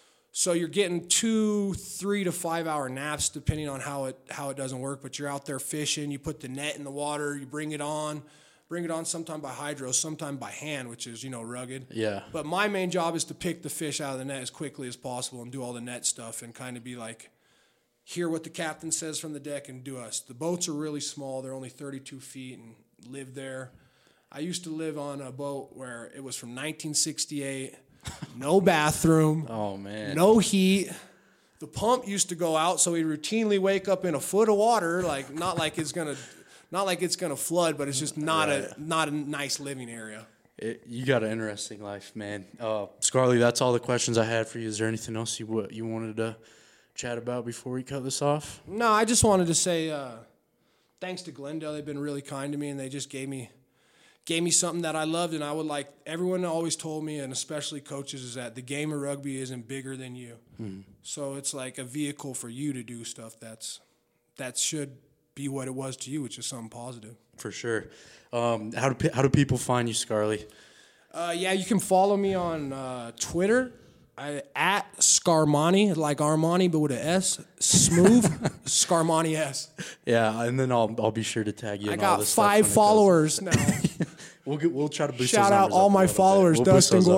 So you're getting two, three to five hour naps, depending on how it how it doesn't work. But you're out there fishing. You put the net in the water. You bring it on, bring it on. Sometime by hydro, sometime by hand, which is you know rugged. Yeah. But my main job is to pick the fish out of the net as quickly as possible and do all the net stuff and kind of be like, hear what the captain says from the deck and do us. The boats are really small. They're only thirty-two feet and live there. I used to live on a boat where it was from nineteen sixty-eight. No bathroom. Oh, man. No heat. The pump used to go out, so we routinely wake up in a foot of water. Like not like it's gonna, not like it's gonna flood, but it's just not Right. a not a nice living area. It, you got an interesting life, man. Uh, Scarlett, that's all the questions I had for you. Is there anything else you what you wanted to chat about before we cut this off? No, I just wanted to say uh, thanks to Glendale. They've been really kind to me, and they just gave me gave me something that I loved, and I would like. Everyone always told me, and especially coaches, is that the game of rugby isn't bigger than you. Hmm. So it's like a vehicle for you to do stuff that's that should be what it was to you, which is something positive. For sure. Um, how do pe- how do people find you, Scarlett? Uh, yeah, you can follow me on uh, Twitter I, at Scarmani, like Armani, but with an S. Smooth Scarmani S. Yeah, and then I'll I'll be sure to tag you. I in all got this stuff five when it does. followers now. We'll get, we'll try to boost Shout those out numbers all up a my little bit. followers, We'll boost Dustin those up.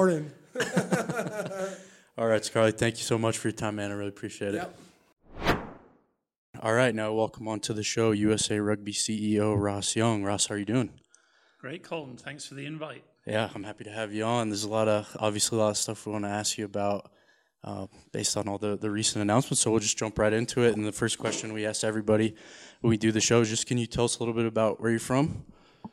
Gordon. All right, Scarlett, thank you so much for your time, man. I really appreciate it. Yep. All right, now welcome on to the show, U S A Rugby C E O Ross Young. Ross, how are you doing? Great, Colton. Thanks for the invite. Yeah, I'm happy to have you on. There's a lot of, obviously, a lot of stuff we want to ask you about uh, based on all the, the recent announcements. So we'll just jump right into it. And the first question we ask everybody when we do the show is just, can you tell us a little bit about where you're from?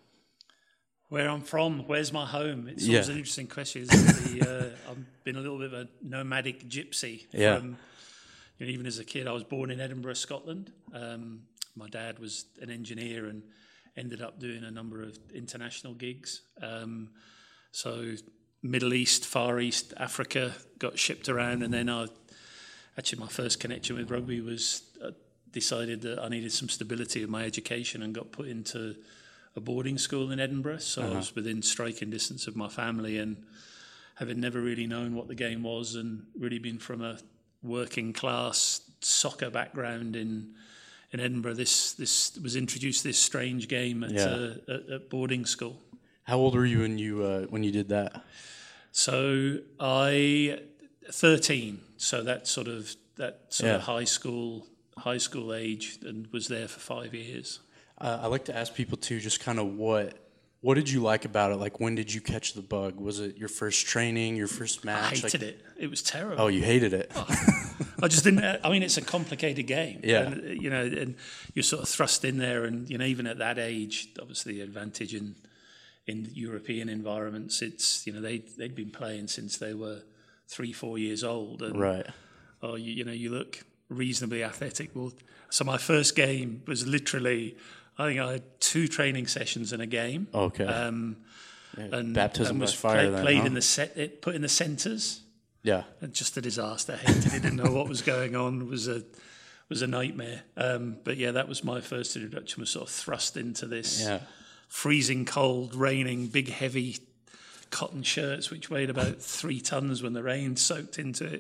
Where I'm from, where's my home? It's Yeah. always an interesting question. Isn't it? The, uh, I've been a little bit of a nomadic gypsy. Yeah. From, you know, even as a kid, I was born in Edinburgh, Scotland. Um, my dad was an engineer and ended up doing a number of international gigs. Um, so Middle East, Far East, Africa, got shipped around, and then I actually my first connection with rugby was uh, decided that I needed some stability in my education and got put into a boarding school in Edinburgh. So Uh-huh. I was within striking distance of my family, and having never really known what the game was and really been from a working class soccer background in in Edinburgh, this this was introduced this strange game at, Yeah. uh, at, at boarding school. How old were you when you uh, when you did that? So I thirteen. So that sort of that sort Yeah. of high school high school age, and was there for five years. Uh, I like to ask people too, just kind of what what did you like about it? Like, when did you catch the bug? Was it your first training, your first I match? hated like, it. It was terrible. Oh, you hated it. I just didn't. I mean, it's a complicated game. Yeah. And, you know, and you're sort of thrust in there, and you know, even at that age, obviously, the advantage in in European environments, it's you know they they'd been playing since they were three, four years old, and Right. oh, you, you know, you look reasonably athletic. Well, so my first game was literally, I think I had two training sessions in a game. Okay. Um, Yeah, and, baptism and by was fire. play, then, played huh? in the set, it put in the centres. Yeah. And just a disaster. Hated it. Didn't know what was going on. It was a was a nightmare. Um, but yeah, that was my first introduction. Was sort of thrust into this Yeah. freezing cold, raining, big heavy cotton shirts, which weighed about three tons when the rain soaked into it.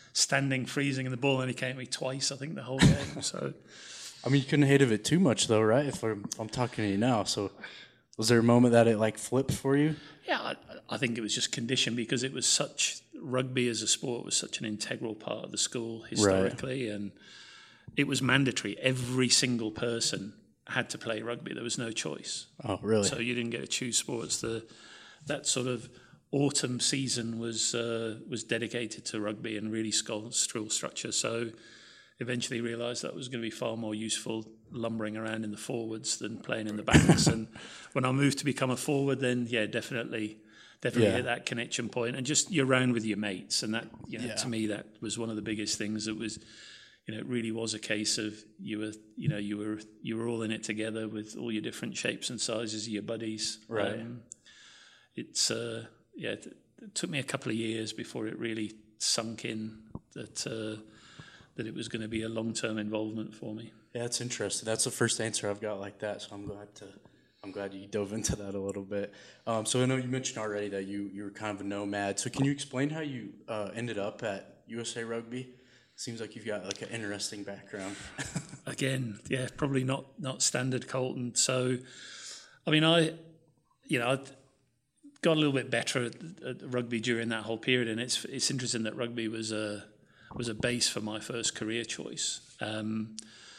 standing, freezing in the ball, and he came at me twice, I think, the whole game. So, I mean, you couldn't hate of it too much, though, right? If I'm, I'm talking to you now, so was there a moment that it like flipped for you? Yeah, I, I think it was just conditioned because it was such rugby as a sport was such an integral part of the school historically, right. And it was mandatory. Every single person had to play rugby. There was no choice. Oh, really? So you didn't get to choose sports. The that sort of autumn season was uh, was dedicated to rugby and really school structure. So eventually realised that was going to be far more useful lumbering around in the forwards than playing in the backs. And when I moved to become a forward, then yeah, definitely, definitely yeah. hit that connection point. And just you're around with your mates, and that you know yeah. to me that was one of the biggest things. It was, you know, it really was a case of you were, you know, you were you were all in it together with all your different shapes and sizes of your buddies. Right. Um, it's uh, yeah, it, it took me a couple of years before it really sunk in that. Uh, that it was going to be a long-term involvement for me. Yeah, that's interesting. That's the first answer I've got like that, so I'm glad to. I'm glad you dove into that a little bit. Um, so I know you mentioned already that you, you were kind of a nomad. So can you explain how you uh, ended up at U S A Rugby? Seems like you've got like an interesting background. Again, yeah, probably not not standard Colton. So, I mean, I, you know, I got a little bit better at, at rugby during that whole period, and it's it's interesting that rugby was a was a base for my first career choice. Um,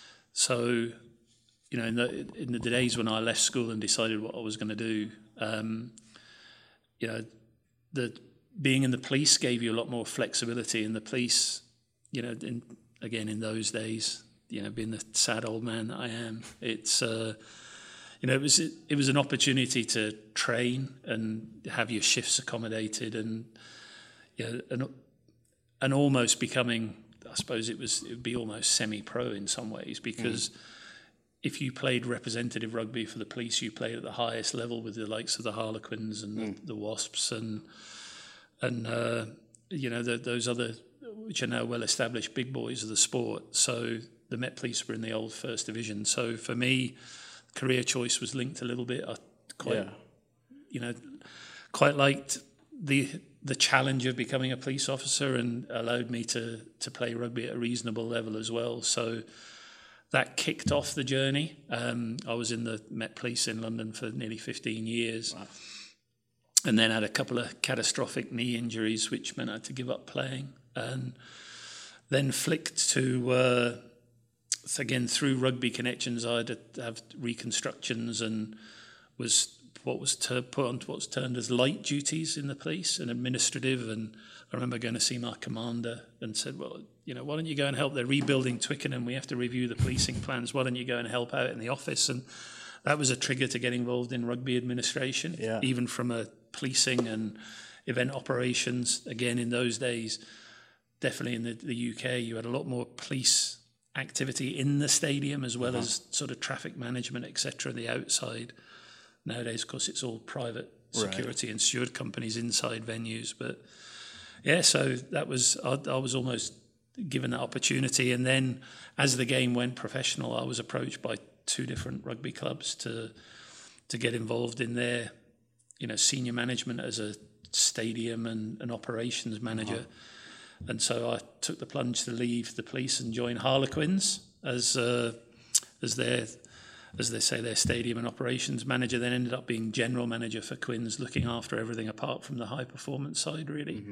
so, you know, in the, in the days when I left school and decided what I was going to do, um, you know, the being in the police gave you a lot more flexibility. In the police, you know, in, again in those days, you know, being the sad old man that I am, it's uh, you know, it was it, it was an opportunity to train and have your shifts accommodated, and you know, and and almost becoming, I suppose it was it would be almost semi-pro in some ways, because. Mm. If you played representative rugby for the police, you played at the highest level with the likes of the Harlequins and mm. the, the Wasps and and uh, you know the, those other, which are now well established big boys of the sport. So the Met Police were in the old First Division. So for me, career choice was linked a little bit. I quite, yeah. you know, quite liked the the challenge of becoming a police officer, and allowed me to to play rugby at a reasonable level as well. So. That kicked off the journey. Um, I was in the Met Police in London for nearly fifteen years. Wow. And then had a couple of catastrophic knee injuries, which meant I had to give up playing. And then flicked to, uh, again, through rugby connections, I had to have reconstructions and was what was ter- put on what's termed as light duties in the police and administrative. And I remember going to see my commander and said, well, you know, why don't you go and help? They're rebuilding Twickenham. We have to review the policing plans. Why don't you go and help out in the office? And that was a trigger to get involved in rugby administration, yeah. even from a policing and event operations. Again, in those days, definitely in the, the U K, you had a lot more police activity in the stadium as well uh-huh. as sort of traffic management, et cetera, the outside. Nowadays, of course, it's all private security right. and steward companies inside venues. But yeah, so that was, I, I was almost given that opportunity. And then as the game went professional, I was approached by two different rugby clubs to to get involved in their, you know, senior management as a stadium and an operations manager. Uh-huh. And so I took the plunge to leave the police and join Harlequins as uh, as their, as they say, their stadium and operations manager. Then ended up being general manager for Quins, looking after everything apart from the high performance side, really. Mm-hmm.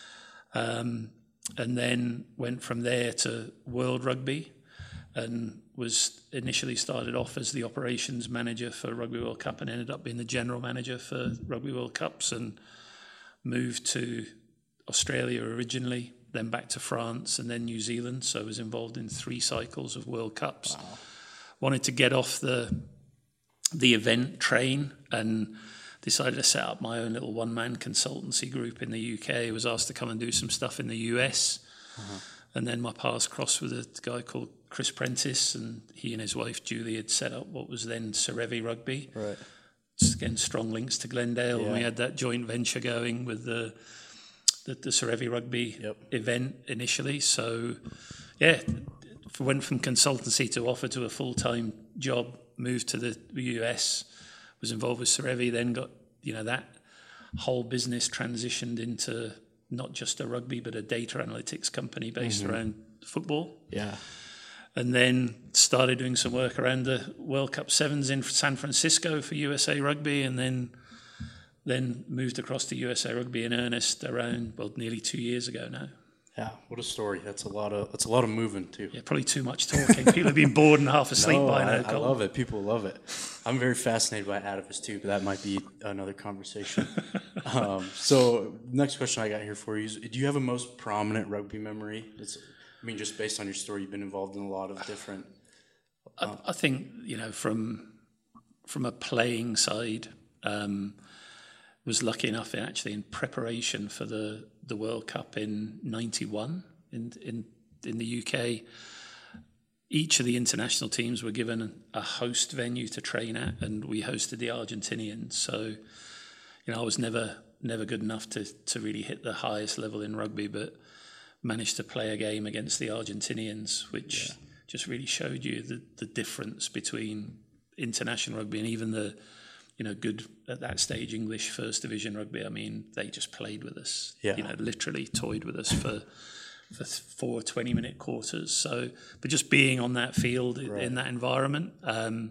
Um, and then went from there to World Rugby, and was initially started off as the operations manager for Rugby World Cup, and ended up being the general manager for Rugby World Cups, and moved to Australia originally, then back to France, and then New Zealand. So I was involved in three cycles of World Cups. Wow. Wanted to get off the the event train, and decided to set up my own little one-man consultancy group in the U K. I was asked to come and do some stuff in the U S. Uh-huh. And then my paths crossed with a guy called Chris Prentice, and he and his wife Julie had set up what was then Serevi Rugby. Right. Just, again, strong links to Glendale. Yeah. And we had that joint venture going with the the, the Serevi Rugby yep. event initially. So, yeah, went from consultancy to offer to a full-time job, moved to the U S, was involved with Serevi, then got, you know, that whole business transitioned into not just a rugby, but a data analytics company based Mm-hmm. around football. Yeah. And then started doing some work around the World Cup Sevens in San Francisco for U S A Rugby, and then then moved across to U S A Rugby in earnest around, well, nearly two years ago now. Yeah. What a story. That's a lot of that's a lot of moving too. Yeah, probably too much talking. People have been bored and half asleep No, by I, now. I Colin. love it. People love it. I'm very fascinated by Atavus too, but that might be another conversation. um, so next question I got here for you is, do you have a most prominent rugby memory? It's, I mean, just based on your story, you've been involved in a lot of different. I, I think, you know, from from a playing side, um, was lucky enough in actually in preparation for the, the World Cup in ninety-one in, in in the U K. Each of the international teams were given a host venue to train at, and we hosted the Argentinians. So, you know, I was never never good enough to to really hit the highest level in rugby, but managed to play a game against the Argentinians, which yeah. just really showed you the, the difference between international rugby and even the, you know, good at that stage English first division rugby. I mean, they just played with us, yeah. you know, literally toyed with us for for four twenty-minute quarters. So, but just being on that field right. in that environment, um,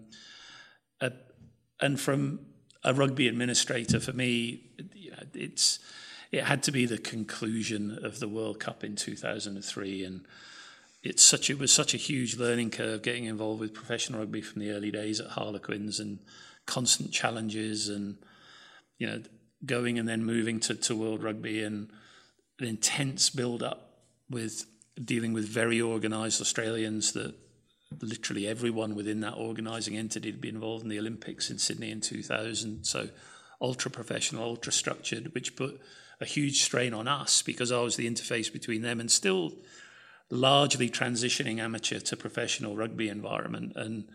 uh, and from a rugby administrator, for me, you know, it's it had to be the conclusion of the World Cup in two thousand three, and it's such it was such a huge learning curve getting involved with professional rugby from the early days at Harlequins, and constant challenges, and you know, going and then moving to, to World Rugby, and an intense build up with dealing with very organised Australians that literally everyone within that organising entity had been involved in the Olympics in Sydney in two thousand. So ultra professional, ultra structured, which put a huge strain on us because I was the interface between them and still largely transitioning amateur to professional rugby environment. And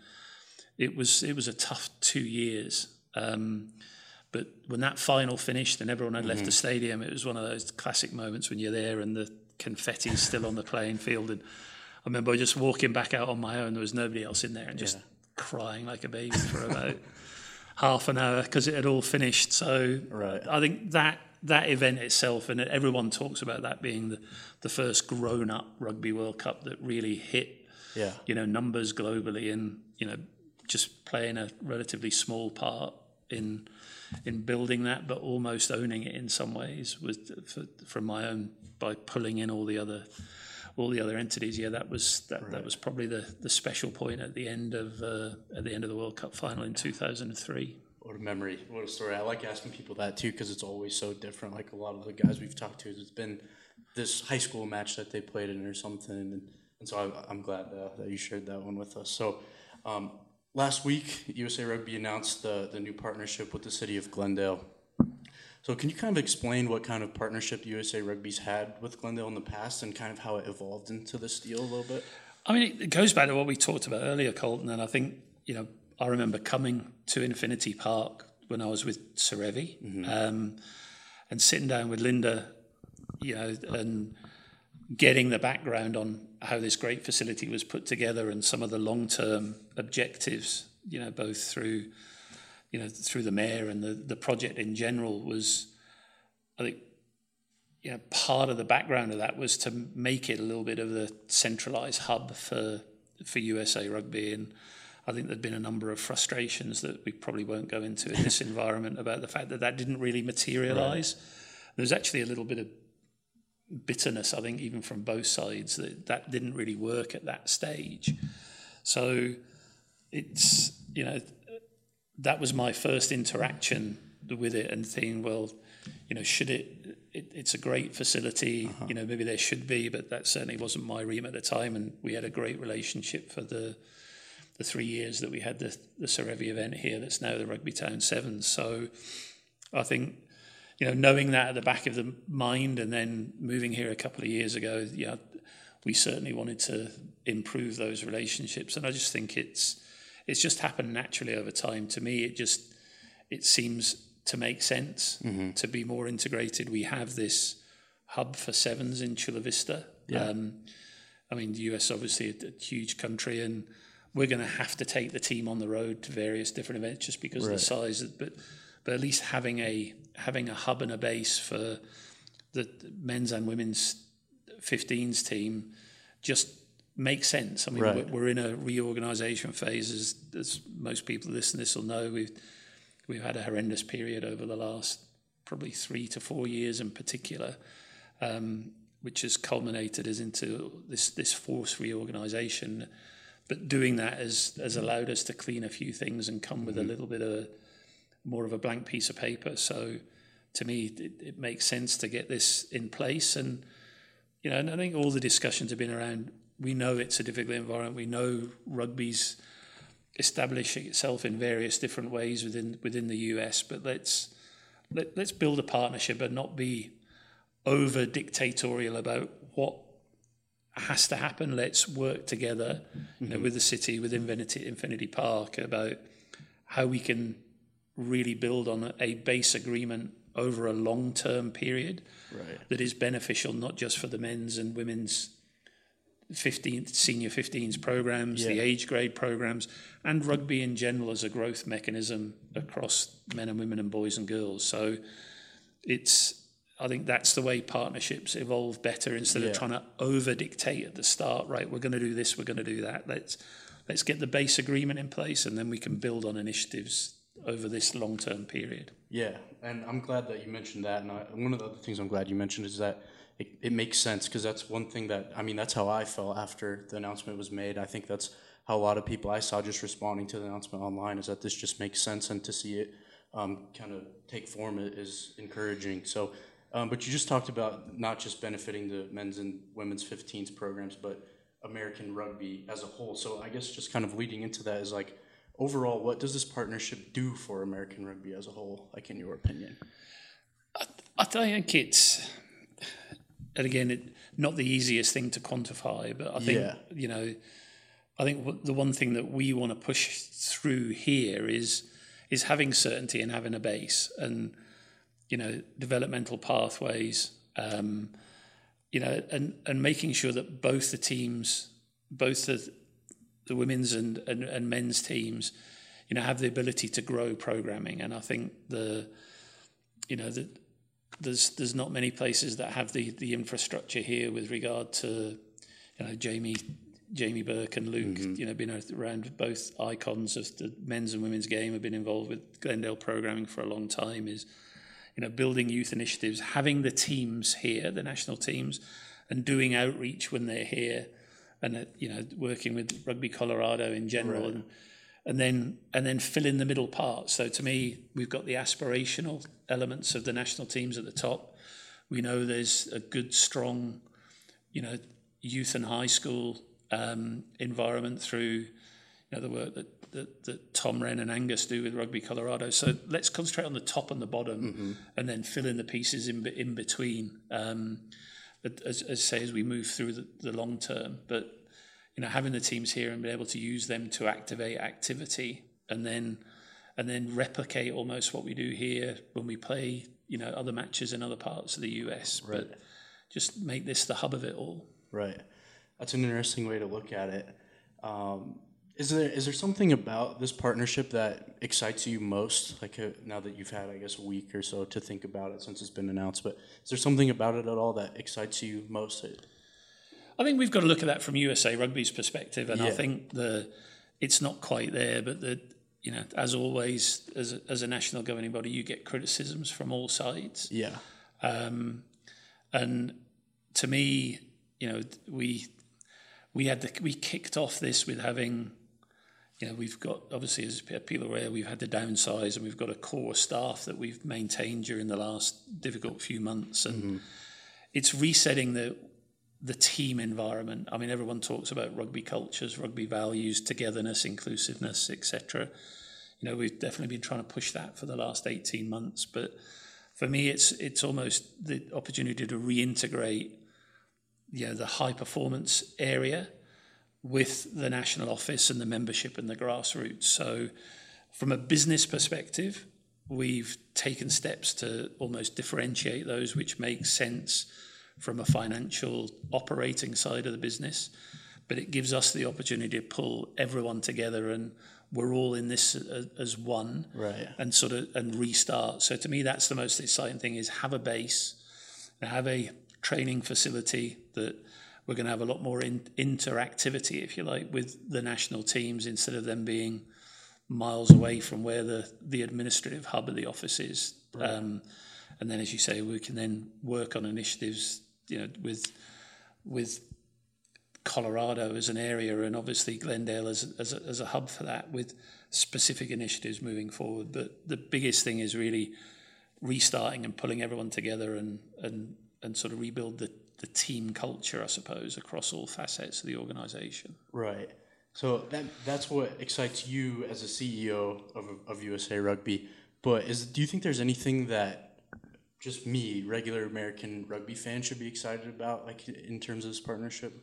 it was it was a tough two years. Um, but when that final finished and everyone had mm-hmm. left the stadium, it was one of those classic moments when you're there and the confetti's still on the playing field. And I remember just walking back out on my own. There was nobody else in there, and just yeah. crying like a baby for about half an hour because it had all finished. So right. I think that that event itself, and everyone talks about that being the, the first grown-up Rugby World Cup that really hit, yeah. you know, numbers globally, and you know, just playing a relatively small part in in building that, but almost owning it in some ways was for, from my own by pulling in all the other. all the other entities. Yeah, that was that, right. that was probably the, the special point at the end of uh, at the end of the World Cup final in two thousand three. What a memory! What a story! I like asking people that too because it's always so different. Like a lot of the guys we've talked to, it's been this high school match that they played in or something, and, and so I, I'm glad uh, that you shared that one with us. So um, last week, U S A Rugby announced the the new partnership with the city of Glendale. So can you kind of explain what kind of partnership U S A Rugby's had with Glendale in the past and kind of how it evolved into this deal a little bit? I mean, it goes back to what we talked about earlier, Colton, and I think, you know, I remember coming to Infinity Park when I was with Serevi, mm-hmm. um, and sitting down with Linda, you know, and getting the background on how this great facility was put together and some of the long-term objectives, you know, both through... you know, through the mayor and the, the project in general was, I think, you know, part of the background of that was to make it a little bit of the centralised hub for for U S A Rugby. And I think there'd been a number of frustrations that we probably won't go into in this environment about the fact that that didn't really materialise. Right. There's actually a little bit of bitterness, I think, even from both sides, that that didn't really work at that stage. So it's, you know, that was my first interaction with it and thinking, well, you know, should it, it it's a great facility, uh-huh. you know, maybe there should be, but that certainly wasn't my remit at the time. And we had a great relationship for the the three years that we had the, the Serevi event here that's now the Rugby Town Sevens. So I think, you know, knowing that at the back of the mind and then moving here a couple of years ago, yeah, we certainly wanted to improve those relationships. And I just think it's, It's just happened naturally over time. To me, it just it seems to make sense mm-hmm. to be more integrated. We have this hub for sevens in Chula Vista. Yeah. Um, I mean, the U S obviously a, a huge country, and we're going to have to take the team on the road to various different events just because right. of the size. But but at least having a having a hub and a base for the men's and women's fifteens team just makes sense. I mean, Right. we're, we're in a reorganisation phase, as, as most people listening to this will know. We've we've had a horrendous period over the last probably three to four years in particular, um, which has culminated as into this this forced reorganisation. But doing that has has allowed us to clean a few things and come with mm-hmm. a little bit of more of a blank piece of paper. So to me, it, it makes sense to get this in place. And you know, and I think all the discussions have been around. We know it's a difficult environment. We know rugby's establishing itself in various different ways within within the U S. But let's let, let's build a partnership and not be over dictatorial about what has to happen. Let's work together, you know, mm-hmm. with the city, with Infinity, Infinity Park, about how we can really build on a, a base agreement over a long-term period right. that is beneficial not just for the men's and women's fifteenth senior fifteens programs, yeah. the age grade programs, and rugby in general as a growth mechanism across men and women and boys and girls. So it's I think that's the way partnerships evolve better instead yeah. of trying to over dictate at the start. Right, we're going to do this, we're going to do that. Let's let's get the base agreement in place, and then we can build on initiatives over this long term period. Yeah, and I'm glad that you mentioned that. And I, one of the other things I'm glad you mentioned is that it, it makes sense, because that's one thing that I mean that's how I felt after the announcement was made. I think that's how a lot of people I saw just responding to the announcement online, is that this just makes sense, and to see it um, kind of take form is encouraging. So. Um, but you just talked about not just benefiting the men's and women's fifteens programs, but American rugby as a whole. So I guess just kind of leading into that is like, overall, what does this partnership do for American rugby as a whole, like in your opinion? I, I think it's, and again, it, not the easiest thing to quantify, but I think, yeah. you know, I think the one thing that we want to push through here is is having certainty and having a base, and you know, developmental pathways, um, you know, and, and making sure that both the teams, both the the women's and, and, and men's teams, you know, have the ability to grow programming. And I think the, you know, the, there's there's not many places that have the, the infrastructure here with regard to, you know, Jamie Jamie Burke and Luke, mm-hmm. you know, been around both icons of the men's and women's game, have been involved with Glendale programming for a long time, is, you know, building youth initiatives, having the teams here, the national teams, and doing outreach when they're here, and uh, you know, working with Rugby Colorado in general, right. and and then and then fill in the middle part. So to me, we've got the aspirational elements of the national teams at the top. We know there's a good, strong, you know, youth and high school um, environment through, you know, the work that. That, that Tom Wren and Angus do with Rugby Colorado. So let's concentrate on the top and the bottom, mm-hmm. and then fill in the pieces in in between. Um, as, as say as we move through the, the long term, but you know, having the teams here and be able to use them to activate activity, and then and then replicate almost what we do here when we play, you know, other matches in other parts of the U S. Right. But just make this the hub of it all. Right. That's an interesting way to look at it. Um, Is there is there something about this partnership that excites you most? Like uh, now that you've had, I guess, a week or so to think about it since it's been announced, but is there something about it at all that excites you most? I think we've got to look at that from U S A Rugby's perspective, and yeah. I think the it's not quite there, but the you know, as always, as a, as a national governing body, you get criticisms from all sides. Yeah, um, and to me, you know, we we had the, we kicked off this with having. You know, we've got, obviously, as people are aware, we've had to downsize, and we've got a core staff that we've maintained during the last difficult few months. And mm-hmm. it's resetting the the team environment. I mean, everyone talks about rugby cultures, rugby values, togetherness, inclusiveness, et cetera. You know, we've definitely been trying to push that for the last eighteen months. But for me, it's it's almost the opportunity to reintegrate, you know, the high performance area with the national office and the membership and the grassroots. So from a business perspective, we've taken steps to almost differentiate those, which makes sense from a financial operating side of the business. But it gives us the opportunity to pull everyone together, and we're all in this as one, right? And sort of and restart. So to me, that's the most exciting thing, is have a base, have a training facility that we're going to have a lot more in, interactivity, if you like, with the national teams instead of them being miles away from where the, the administrative hub of the office is. Right. Um, and then, as you say, we can then work on initiatives, you know, with with Colorado as an area, and obviously Glendale as as a, as a hub for that, with specific initiatives moving forward. But the biggest thing is really restarting and pulling everyone together and and and sort of rebuild the, the team culture, I suppose, across all facets of the organisation. Right. So that that's what excites you as a C E O of of U S A Rugby. But is do you think there's anything that just me, regular American rugby fan, should be excited about, like in terms of this partnership?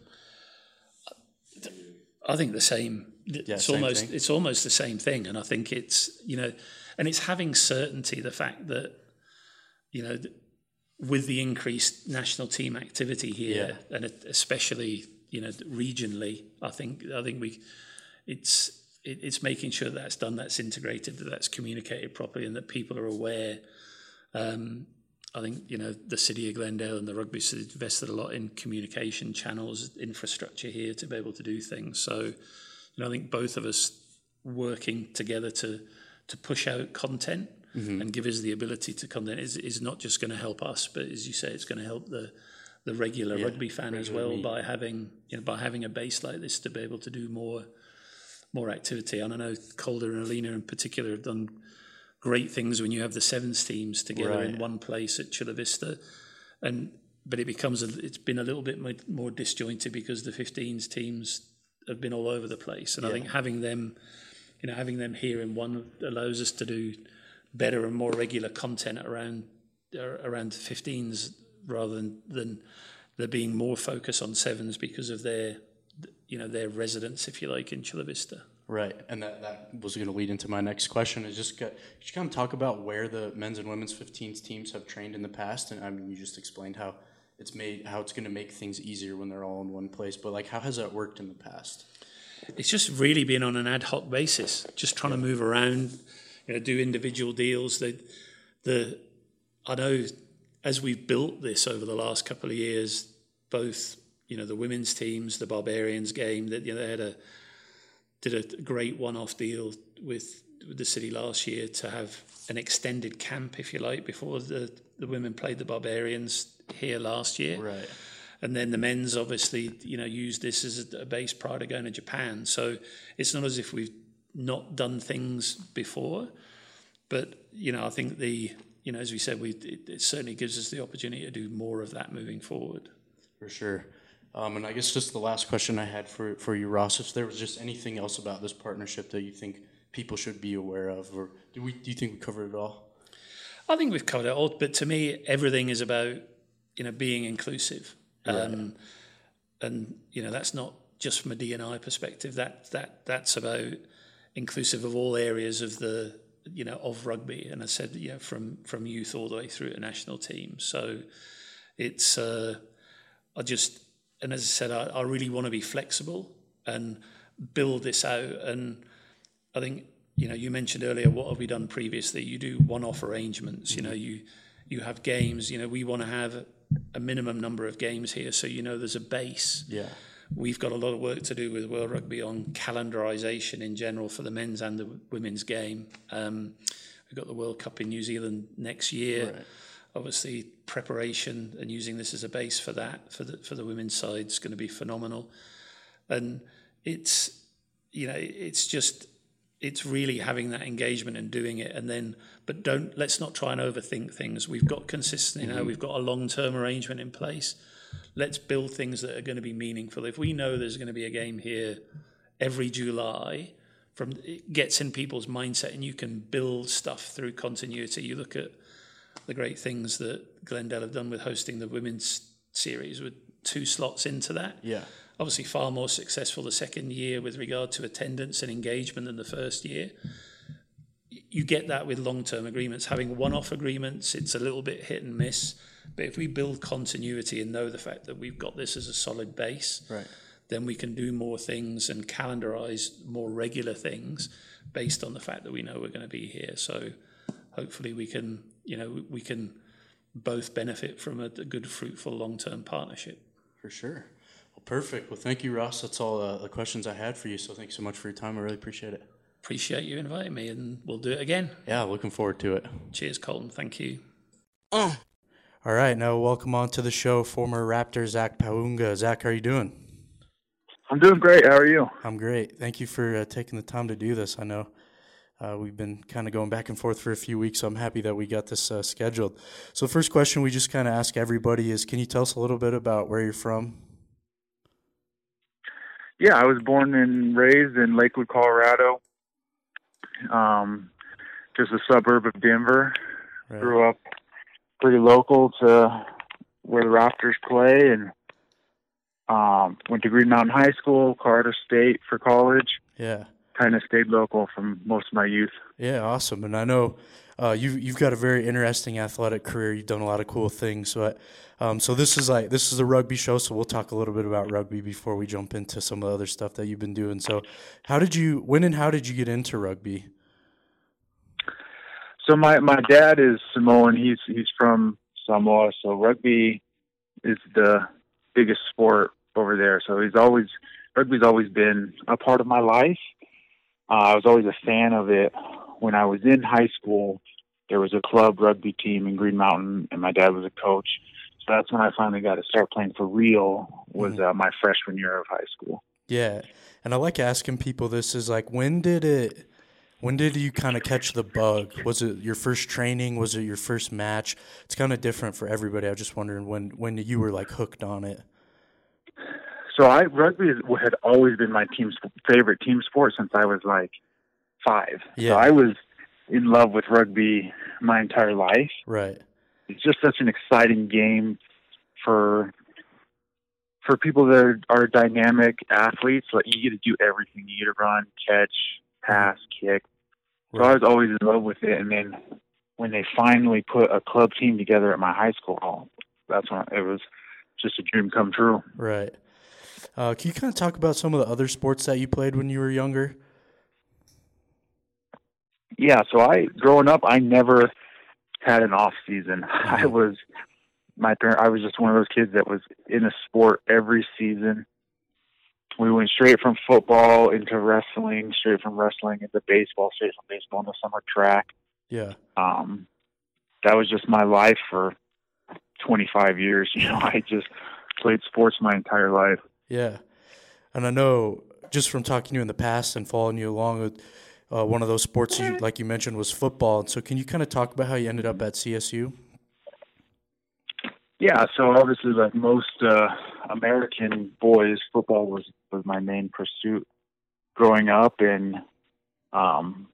I think the same. Yeah, it's same almost thing. it's almost the same thing, and I think it's you know, and it's having certainty. The fact that you know, with the increased national team activity here, yeah. and especially you know regionally, I think I think we, it's it, it's making sure that that's done, that's integrated, that that's communicated properly, and that people are aware. Um, I think, you know, the city of Glendale and the rugby has invested a lot in communication channels, infrastructure here to be able to do things. So, you know, I think both of us working together to to push out content mm-hmm. and give us the ability to content is, is not just going to help us, but as you say, it's going to help the the regular yeah, rugby fan regular as well meet. by having you know by having a base like this to be able to do more more activity. And I know Calder and Alina in particular have done great things when you have the sevens teams together right. in one place at Chula Vista, and but it becomes a, it's been a little bit more, more disjointed because the fifteens teams have been all over the place, and yeah. I think having them, you know, having them here in one allows us to do better and more regular content around around fifteens rather than than there being more focus on sevens because of their you know their residence, if you like, in Chula Vista. Right, and that, that was going to lead into my next question. Is just get, just kind of talk about where the men's and women's fifteens teams have trained in the past, and I mean, you just explained how it's made how it's going to make things easier when they're all in one place. But like, how has that worked in the past? It's just really been on an ad hoc basis, just trying yeah. to move around, you know, do individual deals. The the I know as we've built this over the last couple of years, both you know the women's teams, the Barbarians game, that you know they had a did a great one-off deal with, with the city last year to have an extended camp, if you like, before the, the women played the Barbarians here last year. Right. And then the men's obviously, you know, used this as a base prior to going to Japan. So it's not as if we've not done things before, but, you know, I think the, you know, as we said, we it, it certainly gives us the opportunity to do more of that moving forward. For sure. Um, and I guess just the last question I had for, for you, Ross, if there was just anything else about this partnership that you think people should be aware of, or do we do you think we covered it all? I think we've covered it all, but to me, everything is about, you know, being inclusive. Right. Um, and, you know, that's not just from a D and I perspective, that that that's about inclusive of all areas of the, you know, of rugby. And I said, you know, from, from youth all the way through to national teams. So it's, uh, I just... And as I said, I, I really want to be flexible and build this out. And I think, you know, you mentioned earlier, what have we done previously? You do one-off arrangements. You know, you you have games. You know, we want to have a minimum number of games here, so you know there's a base. Yeah. We've got a lot of work to do with World Rugby on calendarisation in general for the men's and the women's game. Um, we've got the World Cup in New Zealand next year. Right. Obviously, preparation and using this as a base for that for the for the women's side is going to be phenomenal, and it's you know it's just it's really having that engagement and doing it, and then but don't let's not try and overthink things. We've got consistent, you know, mm-hmm. we've got a long term arrangement in place. Let's build things that are going to be meaningful. If we know there's going to be a game here every July, from it gets in people's mindset, and you can build stuff through continuity. You look at the great things that Glendale have done with hosting the women's series with two slots into that. Yeah. Obviously far more successful the second year with regard to attendance and engagement than the first year. You get that with long-term agreements. Having one-off agreements, it's a little bit hit and miss. But if we build continuity and know the fact that we've got this as a solid base, right. then we can do more things and calendarize more regular things based on the fact that we know we're going to be here. So hopefully we can, you know, we can both benefit from a, a good, fruitful, long-term partnership. For sure. Well, perfect. Well, thank you, Ross. That's all uh, the questions I had for you. So thanks so much for your time. I really appreciate it. Appreciate you inviting me, and we'll do it again. Yeah, looking forward to it. Cheers, Colton. Thank you. Uh. All right, now welcome on to the show, former Raptor Zach Paunga. Zach, how are you doing? I'm doing great. How are you? I'm great. Thank you for uh, taking the time to do this. I know uh, we've been kind of going back and forth for a few weeks, so I'm happy that we got this uh, scheduled. So the first question we just kind of ask everybody is, can you tell us a little bit about where you're from? Yeah, I was born and raised in Lakewood, Colorado, um, just a suburb of Denver. Right. Grew up pretty local to where the Raptors play, and um, went to Green Mountain High School, Colorado State for college. Yeah. Kind of stayed local from most of my youth. Yeah, awesome. And I know uh, you you've got a very interesting athletic career. You've done a lot of cool things. So, um, so this is like this is a rugby show. So we'll talk a little bit about rugby before we jump into some of the other stuff that you've been doing. So, how did you when and how did you get into rugby? So my, my dad is Samoan. He's he's from Samoa. So rugby is the biggest sport over there. So he's always rugby's always been a part of my life. Uh, I was always a fan of it. When I was in high school, there was a club rugby team in Green Mountain, and my dad was a coach. So that's when I finally got to start playing for real, was mm-hmm. uh, my freshman year of high school. Yeah, and I like asking people this is like, when did it, when did you kind of catch the bug? Was it your first training? Was it your first match? It's kind of different for everybody. I was just wondering when, when you were like hooked on it. So I rugby had always been my team's favorite team sport since I was like five. Yeah. So I was in love with rugby my entire life. Right. It's just such an exciting game for for people that are, are dynamic athletes. Like you get to do everything. You get to run, catch, pass, kick. So right. I was always in love with it. And then when they finally put a club team together at my high school, that's when it was just a dream come true. Right. Uh, can you kind of talk about some of the other sports that you played when you were younger? Yeah, so I, growing up, I never had an off season. Mm-hmm. I was, my parent, I was just one of those kids that was in a sport every season. We went straight from football into wrestling, straight from wrestling into baseball, straight from baseball into summer track. Yeah. Um, that was just my life for twenty-five years. You know, I just played sports my entire life. Yeah. And I know just from talking to you in the past and following you along with uh, one of those sports, you, like you mentioned, was football. So can you kind of talk about how you ended up at C S U? Yeah, so obviously like most uh, American boys, football was, was my main pursuit growing up, and um,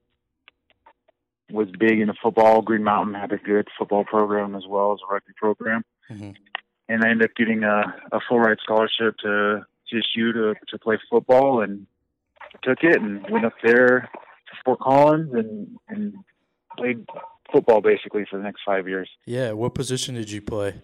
was big into football. Green Mountain had a good football program as well as a rugby program. Mm-hmm. And I ended up getting a, a full ride scholarship to C S U to, to play football, and took it and went up there to Fort Collins and, and played football basically for the next five years. Yeah. What position did you play?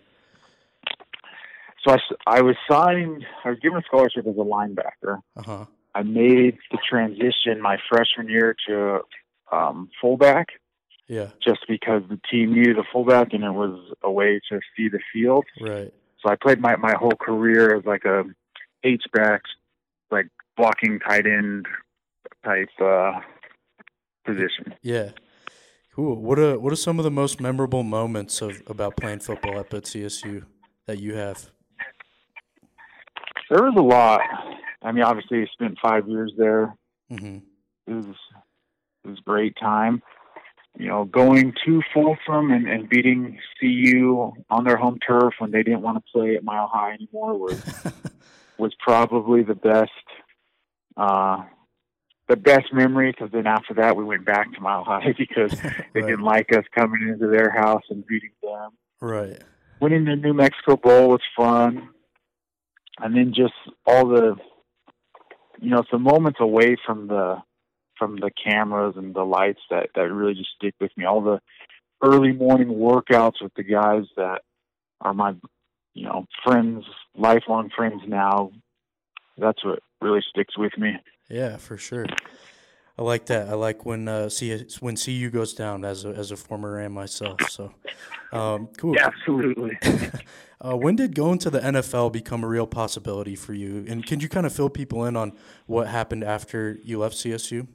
So I, I was signed, I was given a scholarship as a linebacker. Uh-huh. I made the transition my freshman year to um, fullback. Yeah. Just because the team needed a fullback and it was a way to see the field. Right. So I played my, my whole career as like a H-back, like blocking tight end type uh, position. Yeah. Cool. What are, what are some of the most memorable moments of about playing football up at C S U that you have? There was a lot. I mean, obviously I spent five years there. Mm-hmm. It was, it was a great time. You know, going to Folsom and, and beating C U on their home turf when they didn't want to play at Mile High anymore was was probably the best uh, the best memory. Because then after that, we went back to Mile High because they right. didn't like us coming into their house and beating them. Right. Winning the New Mexico Bowl was fun, and then just all the you know some moments away from the. from the cameras and the lights that, that really just stick with me. All the early morning workouts with the guys that are my, you know, friends, lifelong friends now. That's what really sticks with me. Yeah, for sure. I like that. I like when uh, C when C U goes down as a as a former Ram myself. So, um, cool. Yeah, absolutely. uh, when did going to the N F L become a real possibility for you? And can you kind of fill people in on what happened after you left C S U?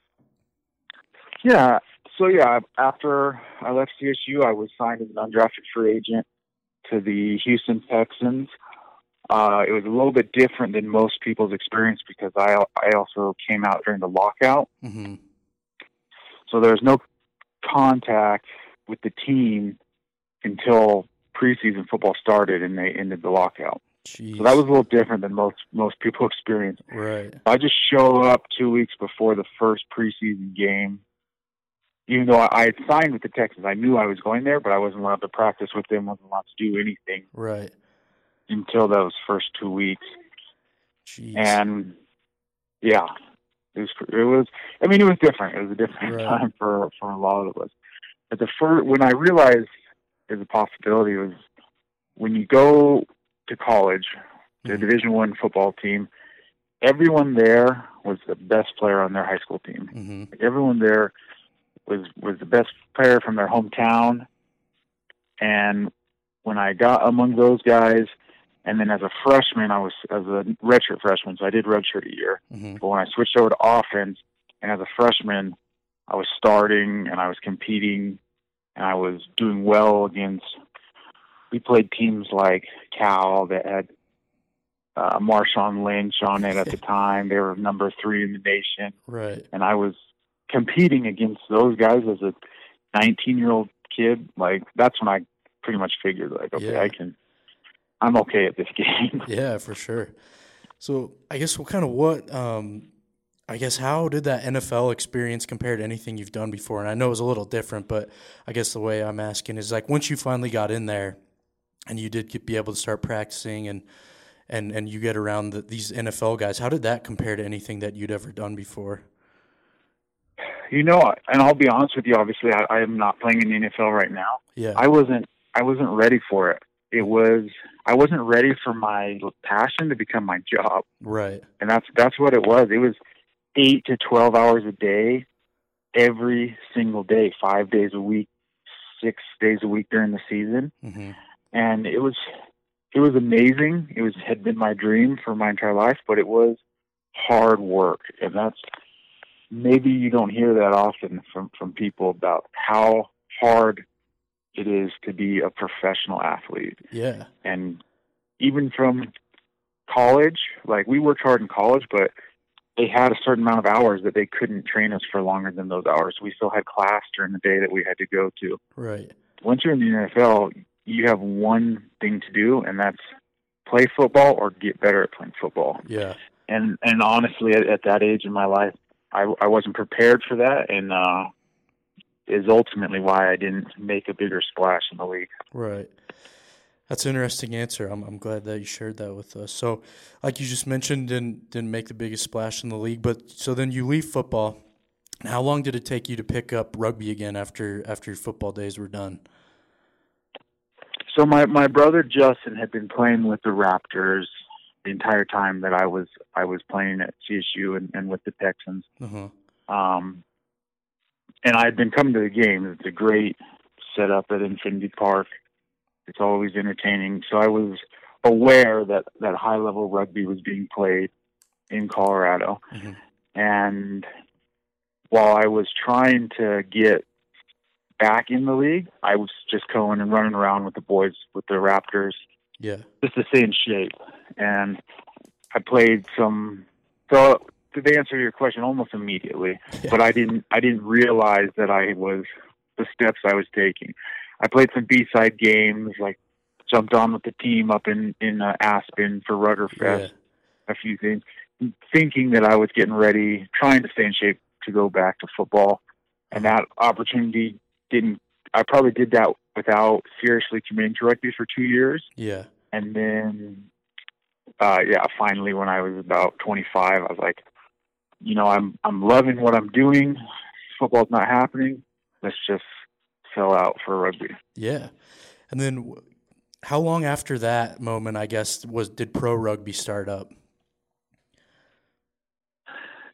Yeah. So yeah, after I left C S U, I was signed as an undrafted free agent to the Houston Texans. Uh, it was a little bit different than most people's experience because I I also came out during the lockout. Mm-hmm. So there was no contact with the team until preseason football started and they ended the lockout. Jeez. So that was a little different than most most people experience. Right. I just show up two weeks before the first preseason game. Even though I had signed with the Texans, I knew I was going there, but I wasn't allowed to practice with them, wasn't allowed to do anything. Right. Until those first two weeks. Jeez. And yeah, it was, it was, I mean, it was different. It was a different right. time for, for a lot of us. But the first, when I realized there's a possibility was when you go to college, the mm-hmm. Division One football team, everyone there was the best player on their high school team. Mm-hmm. Like everyone there was, was the best player from their hometown. And when I got among those guys, and then as a freshman, I was as a redshirt freshman, so I did redshirt a year. Mm-hmm. But when I switched over to offense, and as a freshman, I was starting and I was competing, and I was doing well against. We played teams like Cal that had uh, Marshawn Lynch on it at the time. They were number three in the nation, right? And I was competing against those guys as a nineteen-year-old kid. Like that's when I pretty much figured, like, okay, yeah. I can. I'm okay at this game. Yeah, for sure. So I guess what kind of what, um, I guess how did that N F L experience compare to anything you've done before? And I know it was a little different, but I guess the way I'm asking is like once you finally got in there and you did get, be able to start practicing and and, and you get around the, these N F L guys, how did that compare to anything that you'd ever done before? You know, and I'll be honest with you, obviously I, I am not playing in the N F L right now. Yeah. I wasn't I wasn't ready for it. It was I wasn't ready for my passion to become my job. Right. And that's that's what it was. It was eight to twelve hours a day, every single day, five days a week, six days a week during the season. Mm-hmm. And it was it was amazing. It was had been my dream for my entire life, but it was hard work. And that's maybe you don't hear that often from, from people about how hard it is to be a professional athlete. Yeah. And even from college, like we worked hard in college, but they had a certain amount of hours that they couldn't train us for longer than those hours. We still had class during the day that we had to go to. Right. Once you're in the N F L, you have one thing to do, and that's play football or get better at playing football. Yeah. And and honestly, at, at that age in my life, I, I wasn't prepared for that, and uh, is ultimately why I didn't make a bigger splash in the league. Right. That's an interesting answer. I'm I'm glad that you shared that with us. So, like you just mentioned, didn't didn't make the biggest splash in the league, but so then you leave football. How long did it take you to pick up rugby again after after your football days were done? So my, my brother Justin had been playing with the Raptors the entire time that I was I was playing at C S U and, and with the Texans. Uh-huh. Um, and I had been coming to the game. It's a great setup at Infinity Park. It's always entertaining. So I was aware that, that high-level rugby was being played in Colorado. Mm-hmm. And while I was trying to get back in the league, I was just going and running around with the boys, with the Raptors, yeah, just to stay in shape. And I played some. So to answer your question, almost immediately, yeah. but I didn't. I didn't realize that I was the steps I was taking. I played some B-side games, like jumped on with the team up in in uh, Aspen for Ruggerfest, yeah. a few things, thinking that I was getting ready, trying to stay in shape to go back to football, and that opportunity didn't. I probably did that without seriously committing to rugby for two years. Yeah. And then, uh, yeah, finally when I was about twenty-five, I was like, you know, I'm I'm loving what I'm doing. Football's not happening. Let's just sell out for rugby. Yeah. And then how long after that moment, I guess, was did pro rugby start up?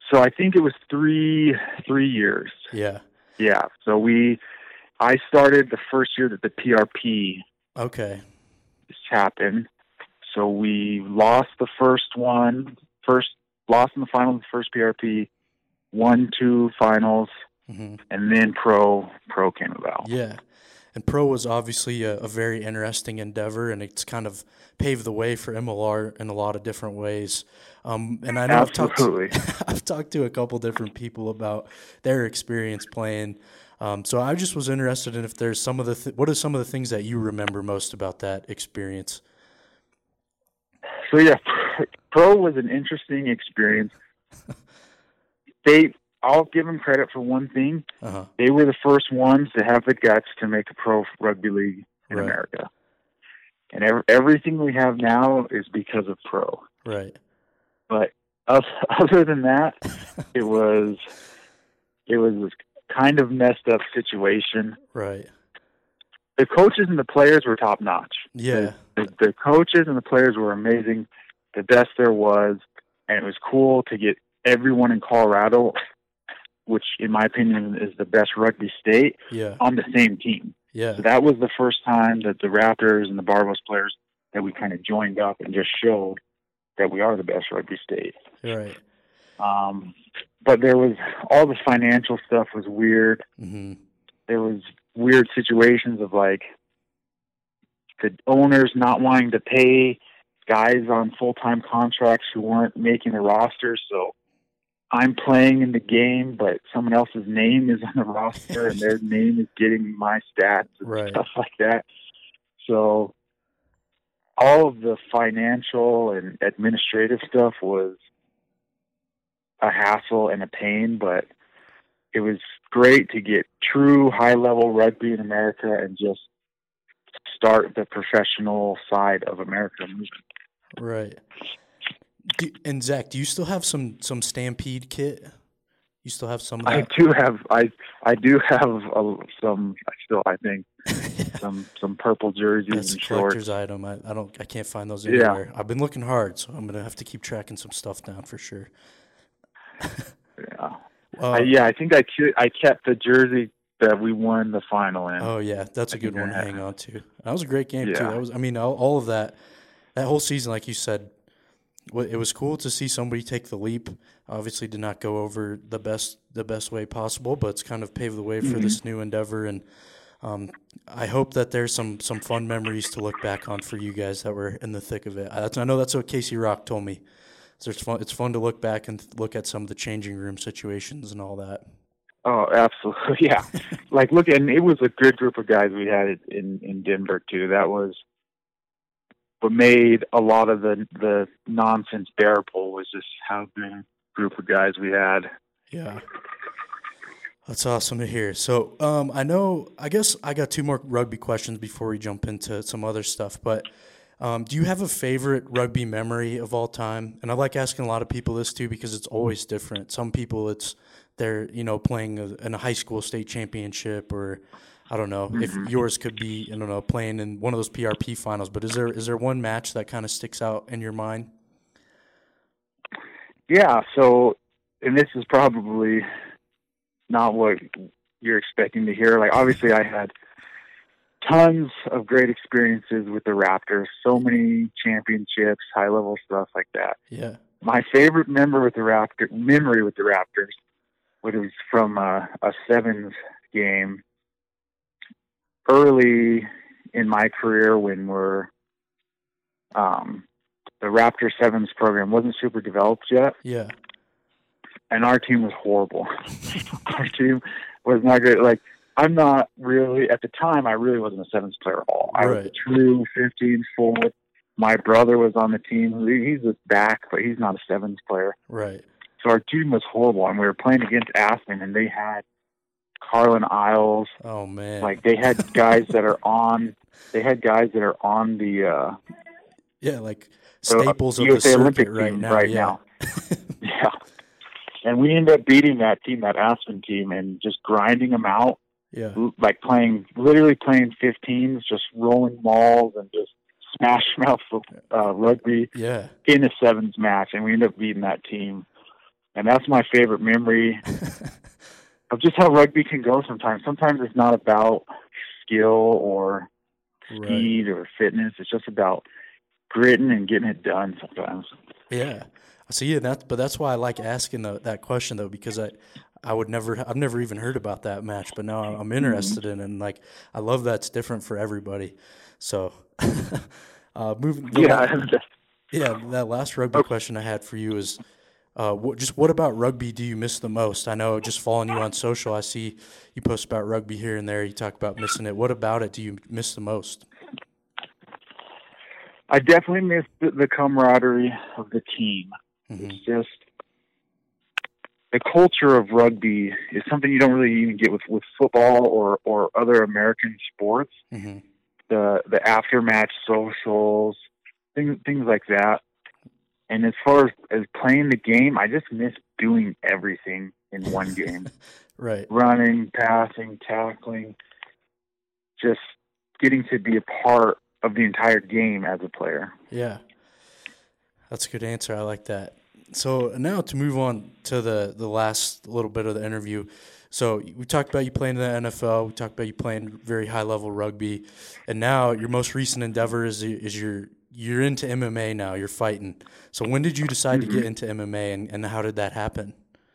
so I think it was three three years. Yeah. Yeah. So we, I started the first year that the P R P Okay. happened. So we lost the first one, first lost in the final of the first P R P, won two finals, Mm-hmm. and then pro pro came about. Yeah. And pro was obviously a, a very interesting endeavor, and it's kind of paved the way for M L R in a lot of different ways. Um, and I know I've talked, to, I've talked to a couple different people about their experience playing. Um, so I just was interested in if there's some of the th- what are some of the things that you remember most about that experience? So yeah, pro was an interesting experience. They, I'll give them credit for one thing. Uh-huh. They were the first ones to have the guts to make a pro rugby league in Right. America. And ev- everything we have now is because of pro. Right. But other than that, it was it was a kind of messed up situation. Right. The coaches and the players were top notch. Yeah. The, the, the coaches and the players were amazing, the best there was, and it was cool to get everyone in Colorado, which in my opinion is the best rugby state, Yeah. on the same team. Yeah. So that was the first time that the Raptors and the Barbos players that we kind of joined up and just showed that we are the best rugby state. Right. Um, but there was all the financial stuff was weird. Mm-hmm. There was weird situations of like the owners not wanting to pay guys on full-time contracts who weren't making the roster. So I'm playing in the game, but someone else's name is on the roster and their name is getting my stats and Right. stuff like that. So all of the financial and administrative stuff was a hassle and a pain, but it was great to get true high-level rugby in America and just start the professional side of America moving. Right. Do, and Zach, do you still have some, some Stampede kit? You still have some of that? I do have I I do have a, some I still I think Yeah. some some purple jerseys That's a and shorts. collector's item. I, I don't I can't find those Yeah. anywhere. I've been looking hard, so I'm gonna have to keep tracking some stuff down for sure. Yeah. Uh, I, yeah, I think I ke- I kept the jersey that we won the final in. Oh yeah, that's a I good think one to that- hang on to. That was a great game too. Yeah. That was I mean all, all of that that whole season, like you said, wa- it was cool to see somebody take the leap. Obviously, did not go over the best the best way possible, but it's kind of paved the way for Mm-hmm. this new endeavor. And um, I hope that there's some some fun memories to look back on for you guys that were in the thick of it. I, that's, I know that's what Casey Rock told me. So it's fun. It's fun to look back and look at some of the changing room situations and all that. Oh, absolutely. Yeah. Like, look, and it was a good group of guys we had in, in Denver, too. That was what made a lot of the, the nonsense bearable was just how good a group of guys we had. Yeah. That's awesome to hear. So um, I know, I guess I got two more rugby questions before we jump into some other stuff, but um, do you have a favorite rugby memory of all time? And I like asking a lot of people this too because it's always different. Some people it's they're, you know, playing a, in a high school state championship or I don't know Mm-hmm. if yours could be, I don't know, playing in one of those P R P finals, but is there is there one match that kind of sticks out in your mind? Yeah. So, and this is probably not what you're expecting to hear. Like, obviously I had tons of great experiences with the Raptors, so many championships, high level stuff like that. Yeah. My favorite member with the Raptor memory with the Raptors was from uh, a sevens game early in my career when we're um, the Raptor sevens program wasn't super developed yet, Yeah. and our team was horrible. Our team was not good. Like, I'm not really at the time. I really wasn't a sevens player at all. I was Right. a true fifteen forward. My brother was on the team. He- He's a back, but he's not a sevens player. Right. So our team was horrible, and we were playing against Aspen, and they had Carlin Isles. Oh man. Like, they had guys that are on. They had guys that are on the uh, yeah, like the staples of U the S A circuit Olympic right team now. right yeah. now. Yeah, and we ended up beating that team, that Aspen team, and just grinding them out. Yeah. Like playing, literally playing fifteens, just rolling malls and just smash mouth uh, rugby Yeah. in a sevens match, and we ended up beating that team. And that's my favorite memory of just how rugby can go sometimes. Sometimes it's not about skill or speed right. or fitness. It's just about gritting and getting it done sometimes. Yeah. So yeah, that but that's why I like asking the, that question though, because I I would never I've never even heard about that match, but now I'm interested in it, and like I love that's different for everybody. So uh, moving yeah, last, yeah, that last rugby question I had for you is uh, what, just what about rugby do you miss the most? I know just following you on social, I see you post about rugby here and there. You talk about missing it. What about it do you miss the most? I definitely miss the, the camaraderie of the team. Mm-hmm. It's just the culture of rugby is something you don't really even get with, with football or, or other American sports. Mm-hmm. The the aftermatch socials, things things like that. And as far as, as playing the game, I just miss doing everything in one game. Right. Running, passing, tackling, just getting to be a part of the entire game as a player. Yeah. That's a good answer. I like that. So now to move on to the, the last little bit of the interview. So we talked about you playing in the N F L. We talked about you playing very high-level rugby. And now your most recent endeavor is is you're, you're into M M A now. You're fighting. So when did you decide mm-hmm. to get into M M A, and, and how did that happen?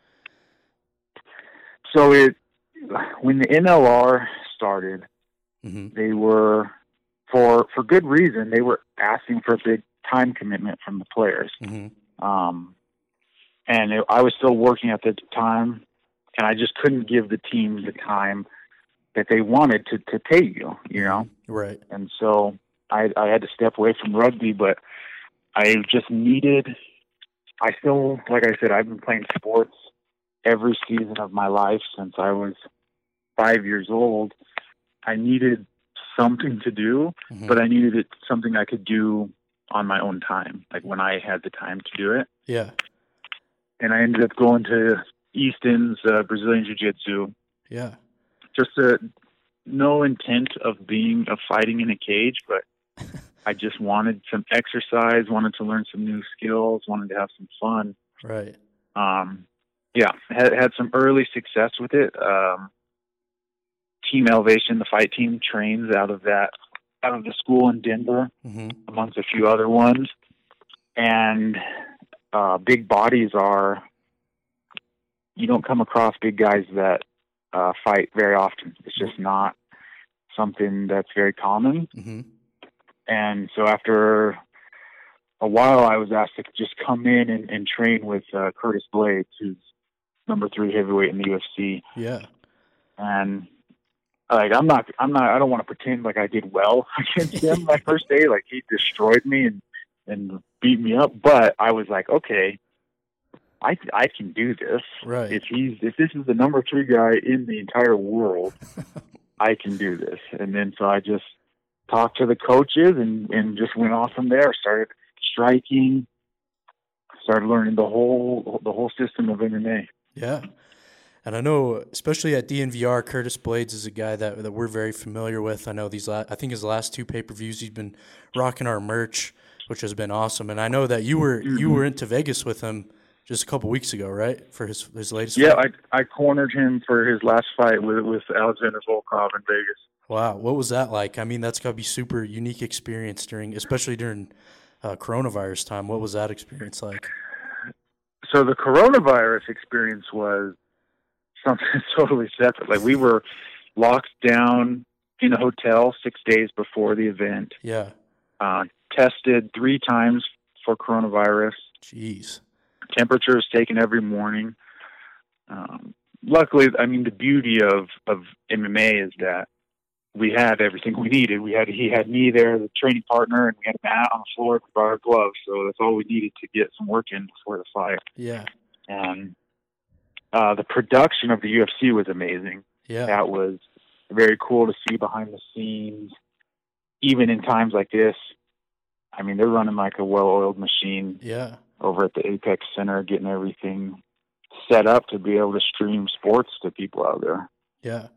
So it when the N L R started, mm-hmm. they were, for for good reason, they were asking for a big time commitment from the players. Mm-hmm. Um, and it, I was still working at the time, and I just couldn't give the team the time that they wanted to, to pay you, you know? Right. And so I, I had to step away from rugby, but I just needed, I still, like I said, I've been playing sports every season of my life since I was five years old. I needed something to do, mm-hmm. but I needed it something I could do on my own time, like when I had the time to do it. Yeah. And I ended up going to Easton's uh, Brazilian Jiu-Jitsu. Yeah. Just a, no intent of being of fighting in a cage, but I just wanted some exercise, wanted to learn some new skills, wanted to have some fun. Right. Um, yeah, had had some early success with it. Um, Team Elevation, the fight team, trains out of that out of the school in Denver, mm-hmm. amongst a few other ones. And uh, big bodies are, you don't come across big guys that uh, fight very often. It's just not something that's very common. Mm-hmm. And so after a while, I was asked to just come in and, and train with uh, Curtis Blades, who's number three heavyweight in the U F C. Yeah. And like, I'm not, I'm not, I don't want to pretend like I did well against him my first day. Like, he destroyed me and, and beat me up. But I was like, okay, I, I can do this. Right. If he's, if this is the number three guy in the entire world, I can do this. And then, so I just talked to the coaches and, and just went off from there. Started striking, started learning the whole, the whole system of M M A. Yeah. And I know, especially at D N V R, Curtis Blades is a guy that that we're very familiar with. I know these, la- I think his last two pay-per-views, he's been rocking our merch, which has been awesome. And I know that you were mm-hmm. you were into Vegas with him just a couple weeks ago, right? For his his latest yeah, fight. I I cornered him for his last fight with with Alexander Volkov in Vegas. Wow, what was that like? I mean, that's got to be super unique experience during, especially during uh, coronavirus time. What was that experience like? So the coronavirus experience was something totally separate. Like, we were locked down in a hotel six days before the event. Yeah. Uh, tested three times for coronavirus. Jeez. Temperatures taken every morning. Um, luckily, I mean, the beauty of, of M M A is that we had everything we needed. We had, he had me there, the training partner, and we had a mat on the floor with our gloves. So that's all we needed to get some work in before the fight. Yeah. And uh, the production of the U F C was amazing. Yeah. That was very cool to see behind the scenes, even in times like this. I mean, they're running like a well-oiled machine. Yeah. Over at the Apex Center, getting everything set up to be able to stream sports to people out there. Yeah.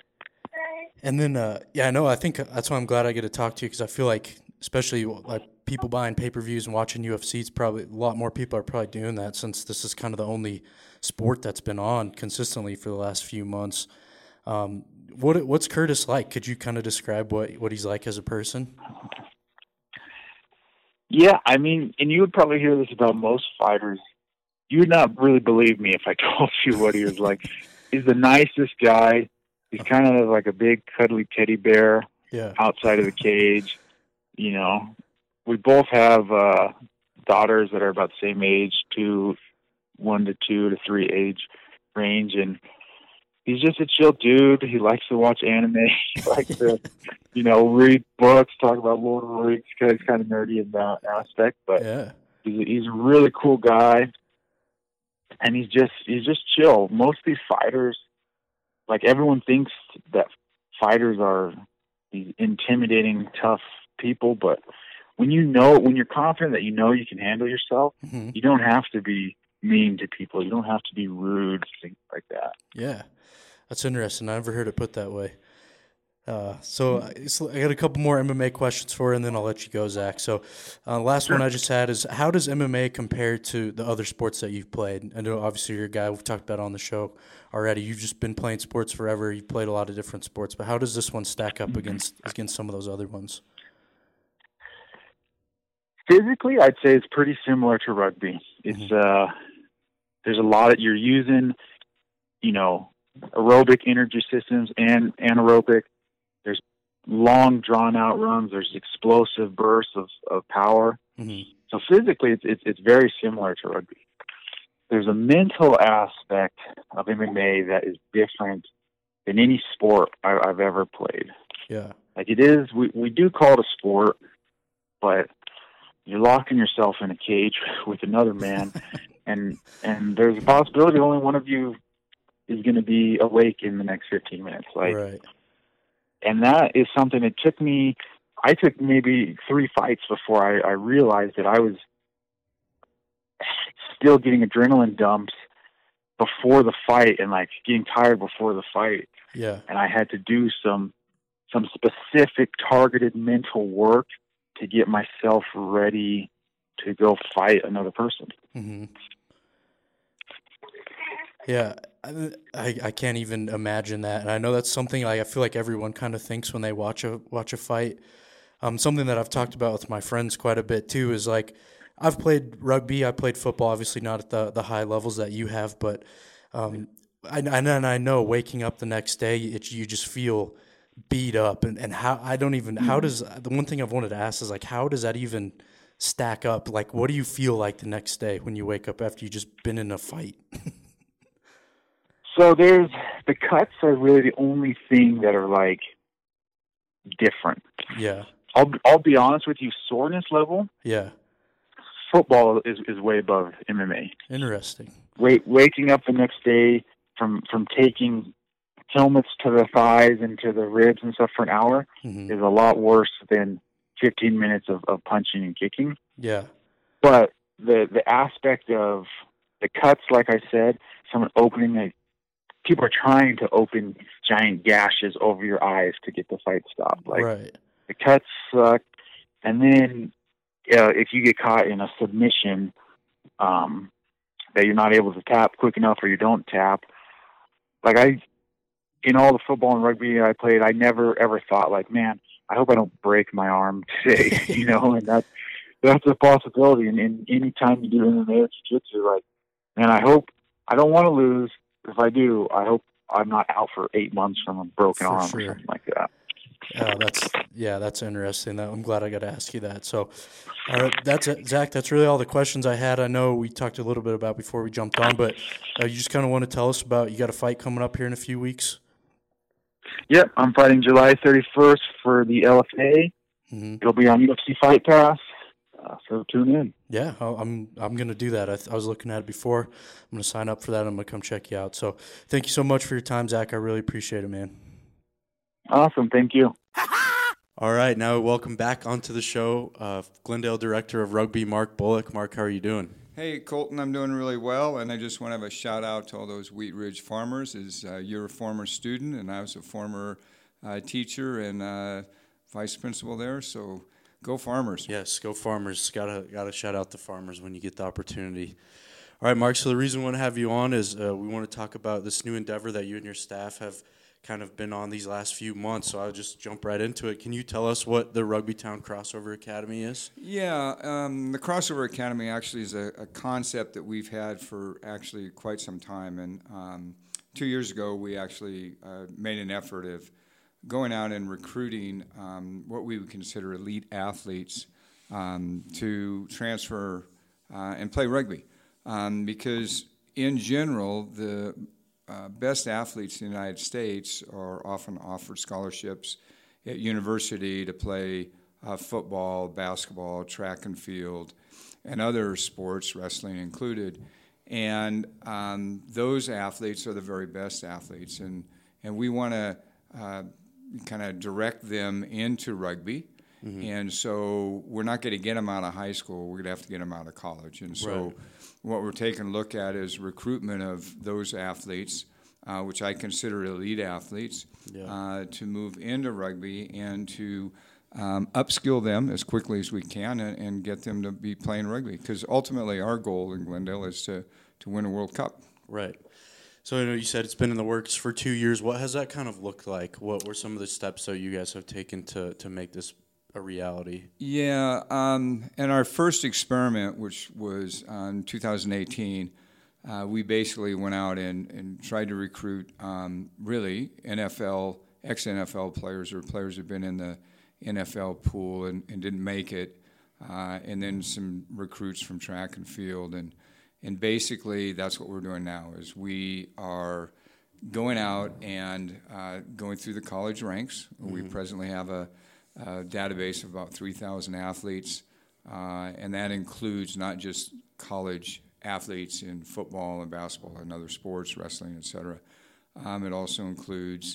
And then, uh, yeah, I know. I think that's why I'm glad I get to talk to you, because I feel like, especially like people buying pay-per-views and watching U F C. It's probably a lot more people are probably doing that since this is kind of the only sport that's been on consistently for the last few months. Um, what what's Curtis like? Could you kind of describe what, what he's like as a person? Yeah, I mean, and you would probably hear this about most fighters. You would not really believe me if I told you what he was like. He's the nicest guy. He's kind of like a big, cuddly teddy bear Yeah. outside of the cage. You know, we both have uh, daughters that are about the same age, two, one to two to three age range, and he's just a chill dude. He likes to watch anime. He likes to, you know, read books, talk about Lord of the Rings, because he's kind of nerdy in that aspect. But Yeah. he's a, he's a really cool guy, and he's just he's just chill. Most of these fighters, like everyone thinks that fighters are these intimidating, tough people, but when you know, when you're confident that you know you can handle yourself, Mm-hmm. you don't have to be mean to people. You don't have to be rude, things like that. Yeah. That's interesting. I never heard it put that way. Uh, so I so I got a couple more M M A questions for you, and then I'll let you go, Zach. So uh, last one I just had is, how does M M A compare to the other sports that you've played? I know obviously you're a guy we've talked about on the show already. You've just been playing sports forever. You've played a lot of different sports, but how does this one stack up against against some of those other ones? Physically, I'd say it's pretty similar to rugby. It's Mm-hmm. uh, there's a lot that you're using, you know, aerobic energy systems and anaerobic. There's long, drawn-out runs. There's explosive bursts of, of power. Mm-hmm. So physically, it's, it's it's very similar to rugby. There's a mental aspect of M M A that is different than any sport I, I've ever played. Yeah. Like it is, we, we do call it a sport, but you're locking yourself in a cage with another man, and and there's a possibility only one of you is going to be awake in the next fifteen minutes. Like, Right. and that is something that took me, I took maybe three fights before I, I realized that I was still getting adrenaline dumps before the fight and like getting tired before the fight. Yeah. And I had to do some, some specific targeted mental work to get myself ready to go fight another person. Mm-hmm. Yeah, I, I I can't even imagine that, and I know that's something like I feel like everyone kind of thinks when they watch a watch a fight. Um, something that I've talked about with my friends quite a bit too is like I've played rugby, I played football, obviously not at the the high levels that you have, but um, I and I know waking up the next day, it, you just feel beat up, and, and how I don't even how does the one thing I've wanted to ask is like how does that even stack up? Like, what do you feel like the next day when you wake up after you just been in a fight? So there's the cuts are really the only thing that are like different. Yeah. I'll I'll be honest with you, soreness level, Yeah. football is, is way above M M A. Interesting. Wait, waking up the next day from from taking helmets to the thighs and to the ribs and stuff for an hour Mm-hmm. is a lot worse than fifteen minutes of, of punching and kicking. Yeah. But the the aspect of the cuts, like I said, someone opening a people are trying to open giant gashes over your eyes to get the fight stopped. Like right. the cuts suck, and then uh, if you get caught in a submission um, that you're not able to tap quick enough, or you don't tap, like I, in all the football and rugby I played, I never ever thought like, man, I hope I don't break my arm today, you know, and that that's a possibility. And, and any time you do M M A or jiu-jitsu, like, man, I hope I don't want to lose. If I do, I hope I'm not out for eight months from a broken For arm sure. or something like that. Uh, that's yeah, that's interesting. That, I'm glad I got to ask you that. So, all right, that's it, Zach. That's really all the questions I had. I know we talked a little bit about before we jumped on, but uh, you just kind of want to tell us about you got a fight coming up here in a few weeks. Yep, I'm fighting July thirty-first for the L F A. Mm-hmm. It'll be on U F C Fight Pass, uh, so tune in. Yeah, I'll- I'm I'm gonna do that. I, th- I was looking at it before. I'm gonna sign up for that. I'm gonna come check you out. So, thank you so much for your time, Zach. I really appreciate it, man. Awesome, thank you. All right, now welcome back onto the show, uh, Glendale Director of Rugby, Mark Bullock. Mark, how are you doing? Hey, Colton, I'm doing really well, and I just want to have a shout-out to all those Wheat Ridge farmers. As uh, you're a former student, and I was a former uh, teacher and uh, vice principal there, so go Farmers. Yes, go Farmers. Gotta gotta shout out the Farmers when you get the opportunity. All right, Mark. So the reason we want to have you on is uh, we want to talk about this new endeavor that you and your staff have kind of been on these last few months. So I'll just jump right into it. Can you tell us what the Rugby Town Crossover Academy is? Yeah, um, the Crossover Academy actually is a, a concept that we've had for actually quite some time. And um, two years ago, we actually uh, made an effort of going out and recruiting um, what we would consider elite athletes um, to transfer uh, and play rugby. Um, because in general, the uh, best athletes in the United States are often offered scholarships at university to play uh, football, basketball, track and field, and other sports, wrestling included. And um, those athletes are the very best athletes. And, and we want to uh, kind of direct them into rugby. Mm-hmm. And so we're not going to get them out of high school. We're going to have to get them out of college. And so right. what we're taking a look at is recruitment of those athletes, uh, which I consider elite athletes, yeah. uh, to move into rugby and to um, upskill them as quickly as we can and, and get them to be playing rugby. Because ultimately our goal in Glendale is to, to win a World Cup. Right. So I know you said it's been in the works for two years. What has that kind of looked like? What were some of the steps that you guys have taken to, to make this a reality? Yeah, um, in our first experiment, which was in two thousand eighteen, uh, we basically went out and, and tried to recruit um, really N F L, ex-N F L players or players who've been in the N F L pool and, and didn't make it, uh, and then some recruits from track and field. And, and basically that's what we're doing now is we are going out and uh, going through the college ranks. Mm-hmm. We presently have a Uh, database of about three thousand athletes, uh, and that includes not just college athletes in football and basketball and other sports, wrestling, et cetera. Um, it also includes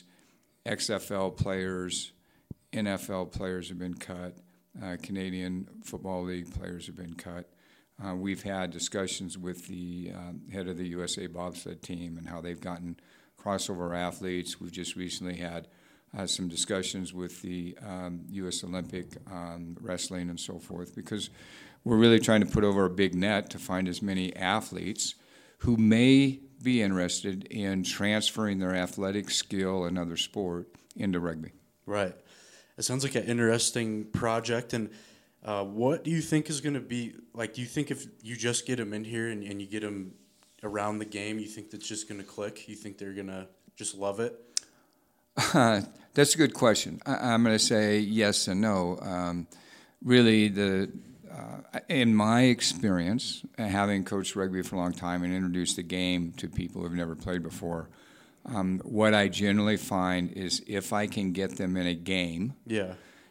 X F L players, N F L players have been cut, uh, Canadian Football League players have been cut. Uh, we've had discussions with the um, head of the U S A bobsled team and how they've gotten crossover athletes. We've just recently had Uh, some discussions with the um, U S Olympic um, wrestling and so forth, because we're really trying to put over a big net to find as many athletes who may be interested in transferring their athletic skill and other sport into rugby. Right. It sounds like an interesting project. And uh, what do you think is going to be, like, do you think if you just get them in here and, and you get them around the game, you think that's just going to click? You think they're going to just love it? Uh, that's a good question. I, I'm going to say yes and no. Um, really, the uh, in my experience, having coached rugby for a long time and introduced the game to people who've never played before, um, what I generally find is if I can get them in a game, yeah,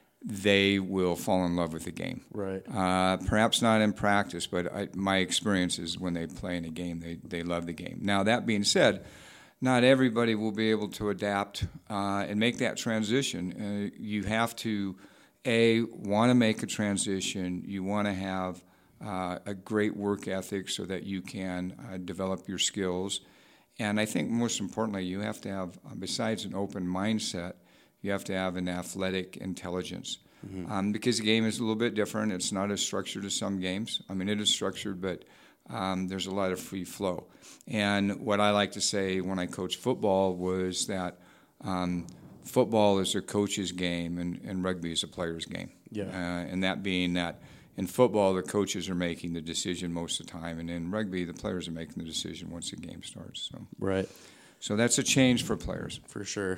they will fall in love with the game. Right. Uh, perhaps not in practice, but I, my experience is when they play in a game, they, they love the game. Now, that being said, not everybody will be able to adapt uh, and make that transition. Uh, you have to, A, want to make a transition. You want to have uh, a great work ethic so that you can uh, develop your skills. And I think most importantly, you have to have, uh, besides an open mindset, you have to have an athletic intelligence. Mm-hmm. Um, because the game is a little bit different. It's not as structured as some games. I mean, it is structured, but Um, there's a lot of free flow. And what I like to say when I coach football was that um, football is a coach's game and, and rugby is a player's game. Yeah. Uh, and that being that in football, the coaches are making the decision most of the time, and in rugby, the players are making the decision once the game starts. So, right. So that's a change for players. For sure.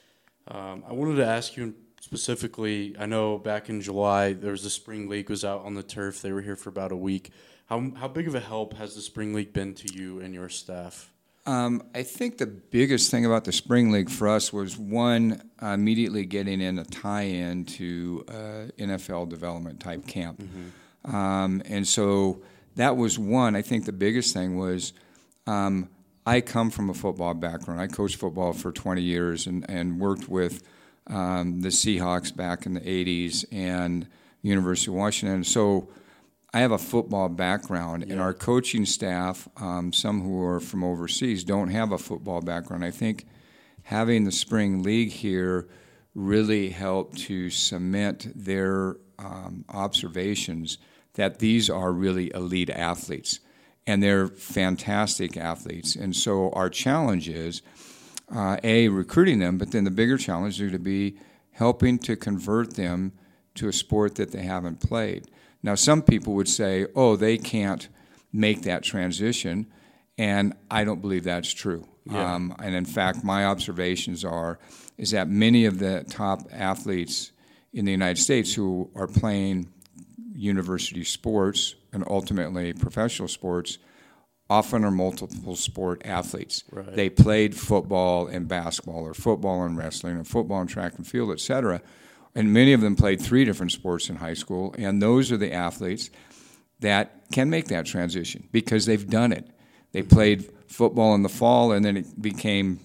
Um, I wanted to ask you specifically, I know back in July, there was the Spring League was out on the turf. They were here for about a week. How how big of a help has the Spring League been to you and your staff? Um, I think the biggest thing about the Spring League for us was, one, uh, immediately getting in a tie-in to uh, N F L development type camp. Mm-hmm. Um, and so that was one. I think the biggest thing was um, I come from a football background. I coached football for twenty years and, and worked with um, the Seahawks back in the eighties and University of Washington. So I have a football background, yeah. and our coaching staff, um, some who are from overseas, don't have a football background. I think having the Spring League here really helped to cement their um, observations that these are really elite athletes, and they're fantastic athletes. And so our challenge is, uh, A, recruiting them, but then the bigger challenge is to be helping to convert them to a sport that they haven't played. Now, some people would say, oh, they can't make that transition, and I don't believe that's true. Yeah. Um, and in fact, my observations are is that many of the top athletes in the United States who are playing university sports and ultimately professional sports often are multiple sport athletes. Right. They played football and basketball, or football and wrestling, or football and track and field, et cetera. And many of them played three different sports in high school, and those are the athletes that can make that transition because they've done it. They played football in the fall, and then it became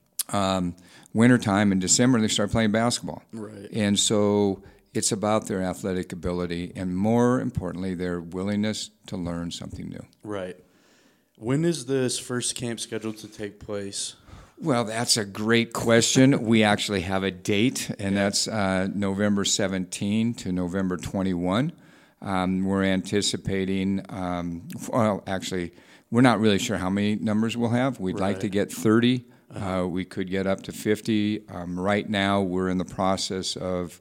um, wintertime in December, and they started playing basketball. Right. And so it's about their athletic ability and, more importantly, their willingness to learn something new. Right. When is this first camp scheduled to take place? Well, that's a great question. We actually have a date, and that's uh, November seventeenth to November twenty-first. Um, we're anticipating, um, well, actually, we're not really sure how many numbers we'll have. We'd Right. like to get thirty. Uh, we could get up to fifty. Um, right now, we're in the process of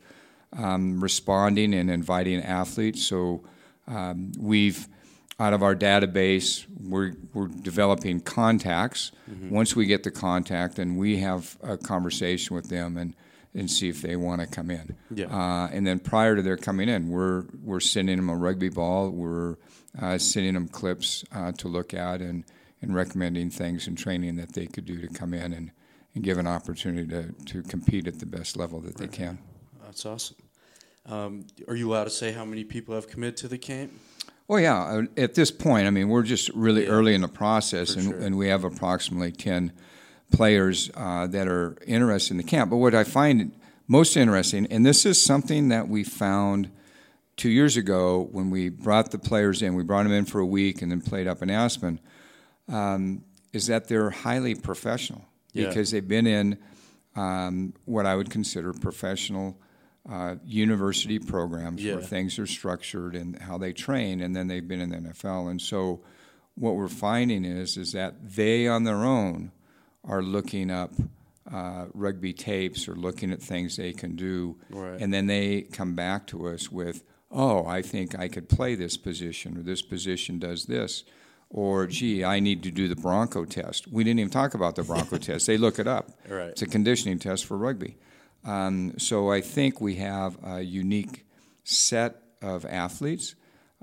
um, responding and inviting athletes. So um, we've, out of our database, we're, we're developing contacts. Mm-hmm. Once we get the contact, then we have a conversation with them and, and see if they want to come in. Yeah. Uh, and then prior to their coming in, we're we're sending them a rugby ball. We're uh, sending them clips uh, to look at and, and recommending things and training that they could do to come in and, and give an opportunity to, to compete at the best level that Right. they can. That's awesome. Um, are you allowed to say how many people have committed to the camp? Well, yeah. At this point, I mean, we're just really Yeah, early in the process, and, sure. and we have approximately ten players uh, that are interested in the camp. But what I find most interesting, and this is something that we found two years ago when we brought the players in, we brought them in for a week and then played up in Aspen, um, is that they're highly professional Yeah. because they've been in um, what I would consider professional uh, university programs Yeah. where things are structured and how they train, and then they've been in the N F L. And so what we're finding is is that they on their own are looking up uh, rugby tapes or looking at things they can do, Right. and then they come back to us with, oh, I think I could play this position, or this position does this, or, gee, I need to do the Bronco test. We didn't even talk about the Bronco test. They look it up. Right. It's a conditioning test for rugby. Um, so I think we have a unique set of athletes,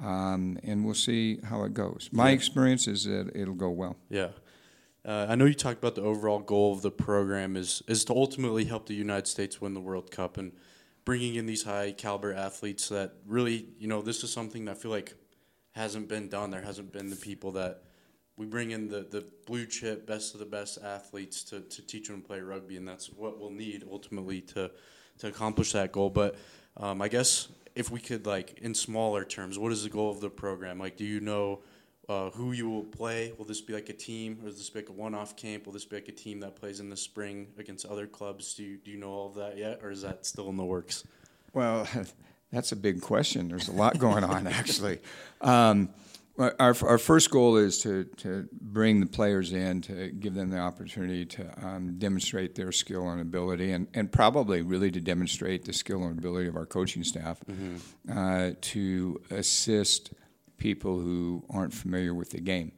um, and we'll see how it goes. My Yeah. experience is that it'll go well. Yeah. Uh, I know you talked about the overall goal of the program is is to ultimately help the United States win the World Cup, and bringing in these high caliber athletes that really, you know, this is something that I feel like hasn't been done. There hasn't been the people that we bring in the, the blue chip, best of the best athletes to, to teach them to play rugby, and that's what we'll need ultimately to to accomplish that goal. But um, I guess if we could, like, in smaller terms, what is the goal of the program? Like, do you know uh, who you will play? Will this be like a team, or will this be like a one-off camp? Will this be like a team that plays in the spring against other clubs? Do you, do you know all of that yet, or is that still in the works? Well, that's a big question. There's a lot going on, actually. Um, our our first goal is to, to bring the players in, to give them the opportunity to um, demonstrate their skill and ability, and, and probably really to demonstrate the skill and ability of our coaching staff mm-hmm. uh, to assist people who aren't familiar with the game.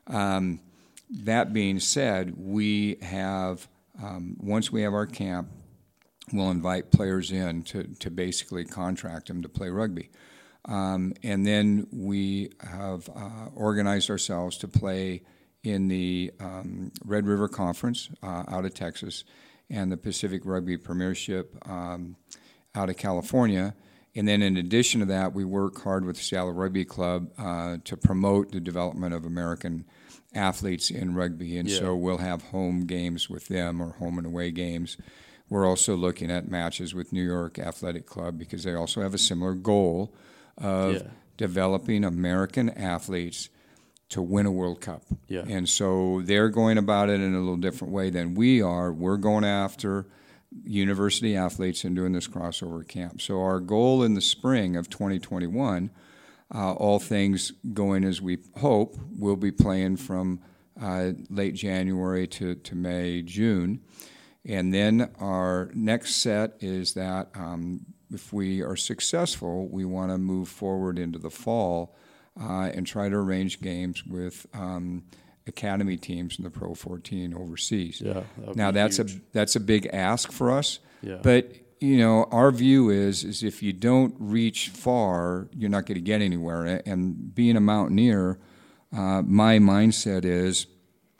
Um, that being said, we have, um, once we have our camp, we'll invite players in to, to basically contract them to play rugby. Um, and then we have uh, organized ourselves to play in the um, Red River Conference uh, out of Texas and the Pacific Rugby Premiership um, out of California. And then in addition to that, we work hard with the Seattle Rugby Club uh, to promote the development of American athletes in rugby. And Yeah. so we'll have home games with them or home and away games. We're also looking at matches with New York Athletic Club because they also have a similar goal of Yeah. developing American athletes to win a World Cup. Yeah. And so they're going about it in a little different way than we are. We're going after university athletes and doing this crossover camp. So our goal in the spring of twenty twenty-one, uh, all things going as we hope, we'll be playing from uh, late January to, to May, June. And then our next set is that um, if we are successful, we want to move forward into the fall uh, and try to arrange games with um, academy teams in the Pro fourteen overseas. Yeah, now that's huge. a that's a big ask for us. Yeah. But you know, our view is is if you don't reach far, you're not going to get anywhere. And being a mountaineer, uh, my mindset is,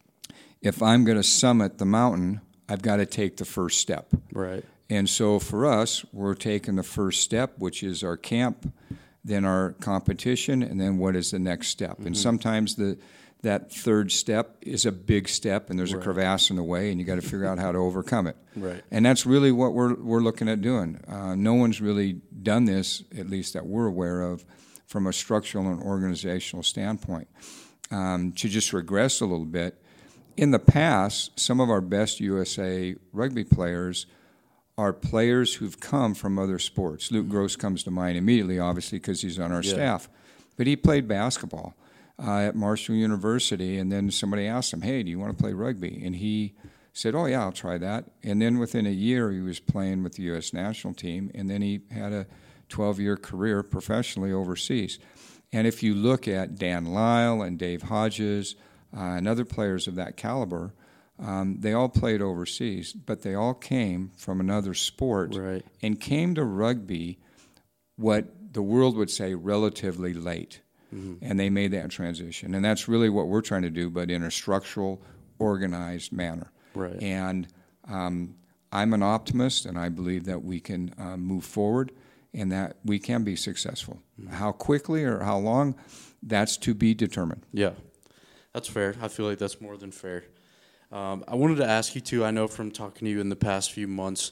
if I'm going to summit the mountain, I've got to take the first step. Right. And so for us, we're taking the first step, which is our camp, then our competition, and then what is the next step. Mm-hmm. And sometimes the that third step is a big step, and there's right. a crevasse in the way, and you got to figure out how to overcome it. Right. And that's really what we're we're looking at doing. Uh, no one's really done this, at least that we're aware of, from a structural and organizational standpoint. Um, to just regress a little bit, in the past, some of our best U S A rugby players are players who've come from other sports. Luke Gross comes to mind immediately, obviously, because he's on our yeah. staff. But he played basketball uh, at Marshall University, and then somebody asked him, hey, do you want to play rugby? And he said, oh, yeah, I'll try that. And then within a year, he was playing with the U S national team, and then he had a twelve-year career professionally overseas. And if you look at Dan Lyle and Dave Hodges uh, and other players of that caliber, Um, they all played overseas, but they all came from another sport right. and came to rugby, what the world would say, relatively late. Mm-hmm. And they made that transition. And that's really what we're trying to do, but in a structural, organized manner. Right. And um, I'm an optimist, and I believe that we can uh, move forward and that we can be successful. Mm-hmm. How quickly or how long, that's to be determined. Yeah, that's fair. I feel like that's more than fair. Um, I wanted to ask you, too, I know from talking to you in the past few months,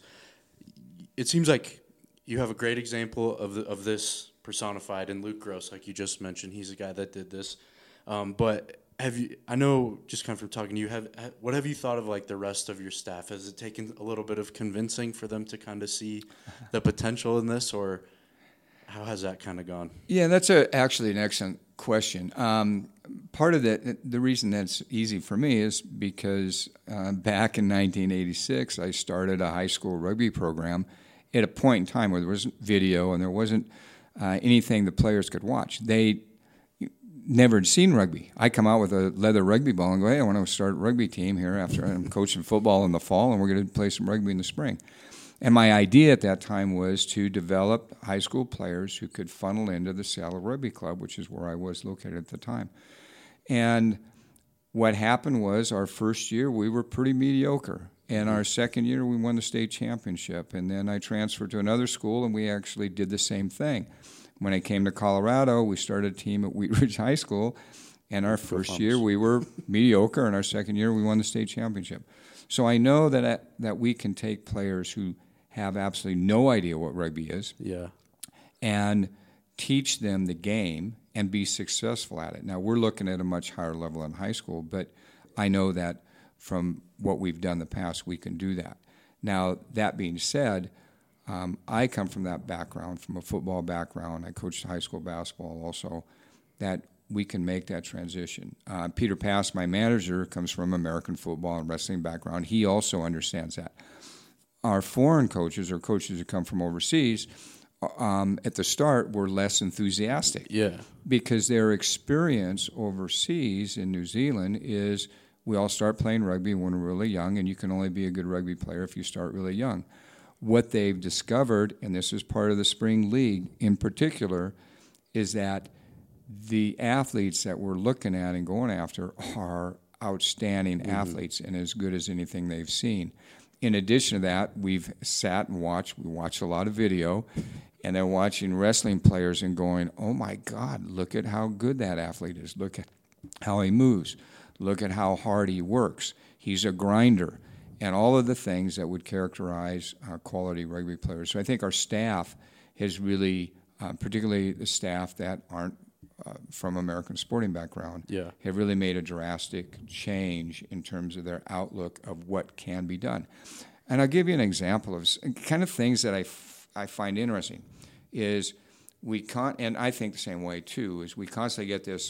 it seems like you have a great example of the, of this personified in Luke Gross, like you just mentioned. He's the guy that did this. Um, but have you, I know just kind of from talking to you, have, what have you thought of like the rest of your staff? Has it taken a little bit of convincing for them to kind of see the potential in this, or how has that kind of gone? Yeah, that's a, actually an excellent question. Um, part of the the reason that's easy for me is because uh, back in nineteen eighty-six, I started a high school rugby program at a point in time where there wasn't video and there wasn't uh, anything the players could watch. They never had seen rugby. I come out with a leather rugby ball and go, hey, I want to start a rugby team here after I'm coaching football in the fall, and we're going to play some rugby in the spring. And my idea at that time was to develop high school players who could funnel into the Seattle Rugby Club, which is where I was located at the time. And what happened was our first year we were pretty mediocre. And our second year we won the state championship. And then I transferred to another school, and we actually did the same thing. When I came to Colorado, we started a team at Wheat Ridge High School. And our first year we were mediocre, and our second year we won the state championship. So I know that that we can take players who have absolutely no idea what rugby is, yeah, and teach them the game and be successful at it. Now, we're looking at a much higher level in high school, but I know that from what we've done in the past, we can do that. Now, that being said, um, I come from that background, from a football background. I coached high school basketball also, that we can make that transition. Uh, Peter Pass, my manager, comes from American football and wrestling background. He also understands that. Our foreign coaches, or coaches who come from overseas, um, at the start were less enthusiastic. Yeah. Because their experience overseas in New Zealand is we all start playing rugby when we're really young, and you can only be a good rugby player if you start really young. What they've discovered, and this is part of the spring league in particular, is that the athletes that we're looking at and going after are outstanding mm-hmm. athletes and as good as anything they've seen. In addition to that, we've sat and watched, we watched a lot of video, and they're watching wrestling players and going, oh my God, look at how good that athlete is. Look at how he moves. Look at how hard he works. He's a grinder. And all of the things that would characterize uh, quality rugby players. So I think our staff has really, uh, particularly the staff that aren't uh, from American sporting background, yeah. have really made a drastic change in terms of their outlook of what can be done. And I'll give you an example of s- kind of things that I, f- I find interesting is we con- and I think the same way too, is we constantly get this,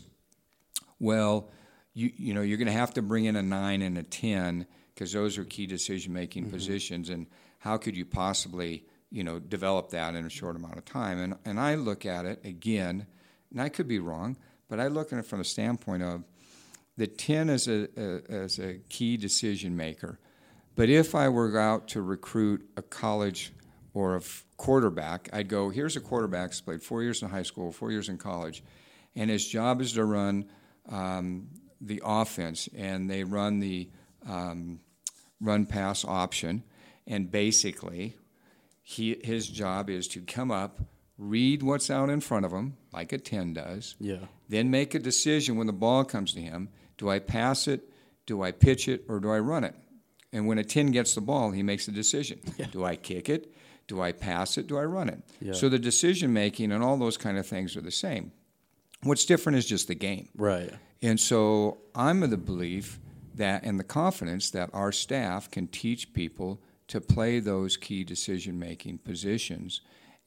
well, you you know, you're going to have to bring in a nine and a ten because those are key decision-making mm-hmm. positions, and how could you possibly, you know, develop that in a short amount of time? And and I look at it again, and I could be wrong, but I look at it from the standpoint of the ten as a, a as a key decision maker. But if I were out to recruit a college or a f- quarterback, I'd go, here's a quarterback who's played four years in high school, four years in college, and his job is to run um, the offense, and they run the um, run-pass option, and basically he his job is to come up, read what's out in front of him, like a ten does, yeah. then make a decision when the ball comes to him. Do I pass it, do I pitch it, or do I run it? And when a ten gets the ball, he makes a decision. Yeah. Do I kick it? Do I pass it? Do I run it? Yeah. So the decision-making and all those kind of things are the same. What's different is just the game. Right. And so I'm of the belief that and the confidence that our staff can teach people to play those key decision-making positions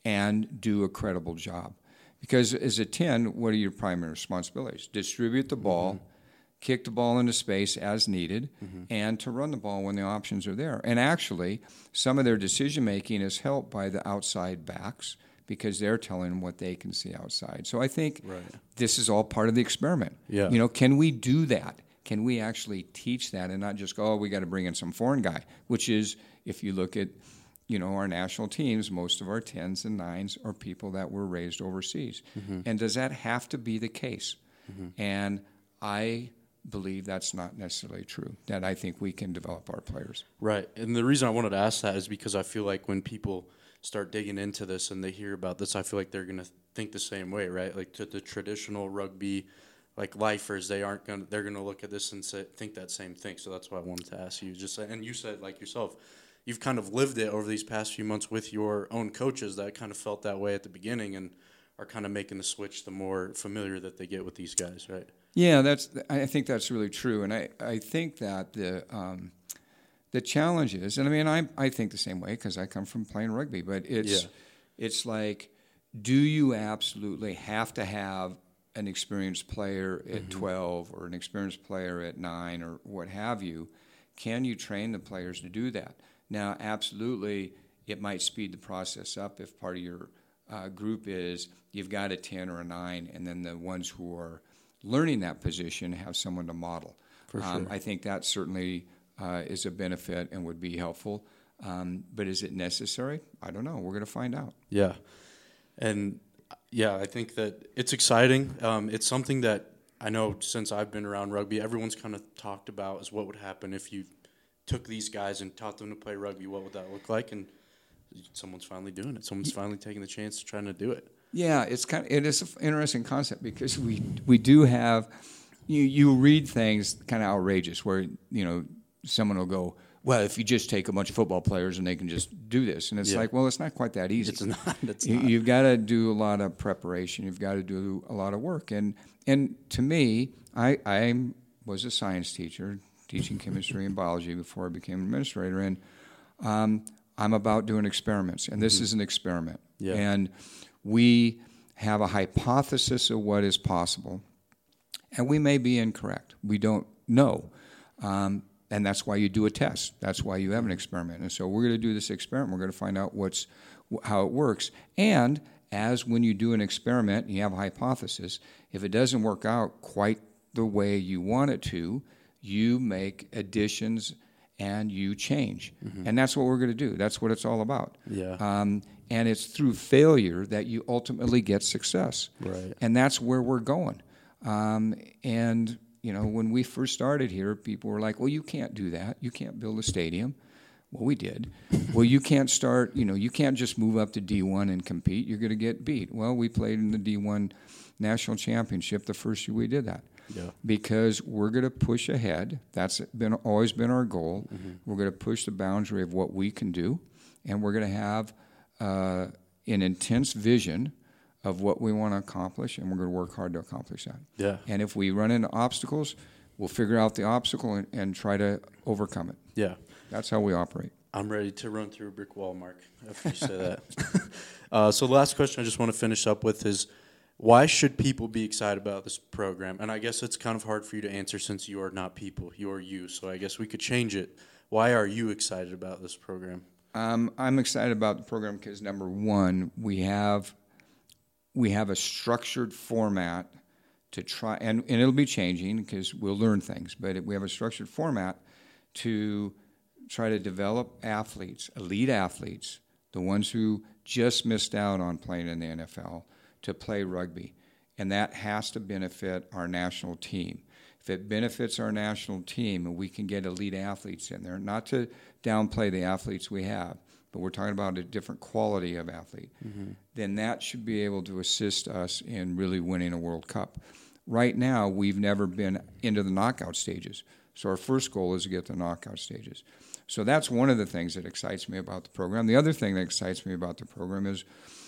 and do a credible job. Because as a ten, what are your primary responsibilities? Distribute the ball, mm-hmm. kick the ball into space as needed, mm-hmm. and to run the ball when the options are there. And actually, some of their decision-making is helped by the outside backs because they're telling them what they can see outside. So I think right. this is all part of the experiment. Yeah. You know, can we do that? Can we actually teach that and not just go, oh, we got to bring in some foreign guy, which is, if you look at, you know, our national teams, most of our tens and nines are people that were raised overseas. Mm-hmm. And does that have to be the case? Mm-hmm. And I believe that's not necessarily true, that I think we can develop our players. Right. And the reason I wanted to ask that is because I feel like when people start digging into this and they hear about this, I feel like they're going to think the same way, right? Like to the traditional rugby, like lifers, they aren't going to, they're going to look at this and say, think that same thing. So that's why I wanted to ask you. Just and you said, like yourself, you've kind of lived it over these past few months with your own coaches that kind of felt that way at the beginning and are kind of making the switch the more familiar that they get with these guys, right? Yeah, that's. I think that's really true, and I, I think that the um, the challenge is, and I mean, I I think the same way because I come from playing rugby, but it's yeah. it's like, do you absolutely have to have an experienced player at mm-hmm. twelve or an experienced player at nine or what have you? Can you train the players to do that? Now, absolutely, it might speed the process up if part of your uh, group is you've got a ten or a nine, and then the ones who are learning that position have someone to model. For sure. Um, I think that certainly uh, is a benefit and would be helpful. Um, but is it necessary? I don't know. We're going to find out. Yeah. And, yeah, I think that it's exciting. Um, it's something that I know since I've been around rugby, everyone's kind of talked about is what would happen if you took these guys and taught them to play rugby. What would that look like? And someone's finally doing it. Someone's finally taking the chance to trying to do it. Yeah, it's kind of, it is an interesting concept because we we do have you you read things kind of outrageous where you know someone will go, well, if you just take a bunch of football players and they can just do this, and it's yeah. like, well, it's not quite that easy. It's not. It's you, not. You've got to do a lot of preparation. You've got to do a lot of work, and and to me, I I was a science teacher teaching chemistry and biology before I became an administrator, and um, I'm about doing experiments, and this mm-hmm. is an experiment, yeah. and we have a hypothesis of what is possible, and we may be incorrect. We don't know, um, and that's why you do a test. That's why you have an experiment. And so we're going to do this experiment. We're going to find out what's how it works. And as when you do an experiment, and you have a hypothesis. If it doesn't work out quite the way you want it to, you make additions and you change. Mm-hmm. And that's what we're going to do. That's what it's all about. Yeah. Um, and it's through failure that you ultimately get success. Right. And that's where we're going. Um, and, you know, when we first started here, people were like, well, you can't do that. You can't build a stadium. Well, we did. Well, you can't start, you know, you can't just move up to D one and compete. You're going to get beat. Well, we played in the D one National Championship the first year we did that. Yeah. Because we're going to push ahead. That's been always been our goal. Mm-hmm. We're going to push the boundary of what we can do, and we're going to have uh, an intense vision of what we want to accomplish, and we're going to work hard to accomplish that. Yeah. And if we run into obstacles, we'll figure out the obstacle and, and try to overcome it. Yeah. That's how we operate. I'm ready to run through a brick wall, Mark, after you say that. uh, so the last question I just want to finish up with is, why should people be excited about this program? And I guess it's kind of hard for you to answer since you are not people, you are you. So I guess we could change it. Why are you excited about this program? Um, I'm excited about the program because, number one, we have we have a structured format to try, and, and it'll be changing because we'll learn things, but it, we have a structured format to try to develop athletes, elite athletes, the ones who just missed out on playing in the N F L, to play rugby. And that has to benefit our national team. If it benefits our national team and we can get elite athletes in there, not to downplay the athletes we have, but we're talking about a different quality of athlete, mm-hmm. then that should be able to assist us in really winning a World Cup. Right now, we've never been into the knockout stages. So our first goal is to get to the knockout stages. So that's one of the things that excites me about the program. The other thing that excites me about the program is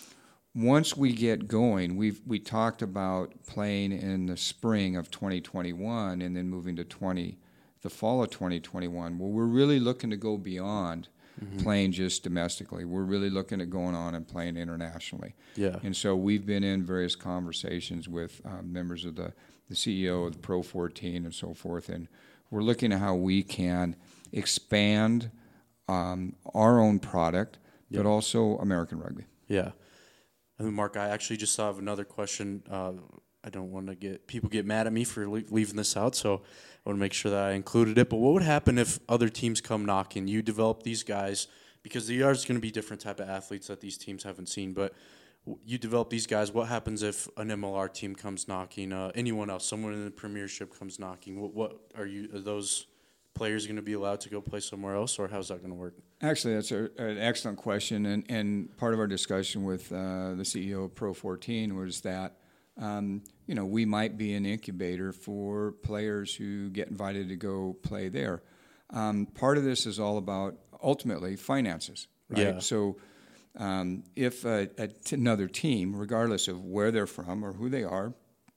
once we get going, we've we talked about playing in the spring of twenty twenty-one and then moving to twenty, the fall of twenty twenty-one. Well, we're really looking to go beyond mm-hmm. playing just domestically. We're really looking at going on and playing internationally. Yeah. And so we've been in various conversations with um, members of the, the C E O of the Pro fourteen and so forth, and we're looking at how we can expand um, our own product, yep. but also American rugby. Yeah. And Mark, I actually just have another question. Uh, I don't want to get people get mad at me for le- leaving this out, so I want to make sure that I included it. But what would happen if other teams come knocking? You develop these guys, because there are going to be different type of athletes that these teams haven't seen, but you develop these guys. What happens if an M L R team comes knocking? Uh, anyone else, someone in the Premiership comes knocking? What, what are you? Are those players going to be allowed to go play somewhere else, or how's that going to work? Actually, that's a, an excellent question, and, and part of our discussion with uh, the C E O of Pro fourteen was that um, you know we might be an incubator for players who get invited to go play there. Um, part of this is all about ultimately finances, right? Yeah. So um, if a, a t- another team, regardless of where they're from or who they are,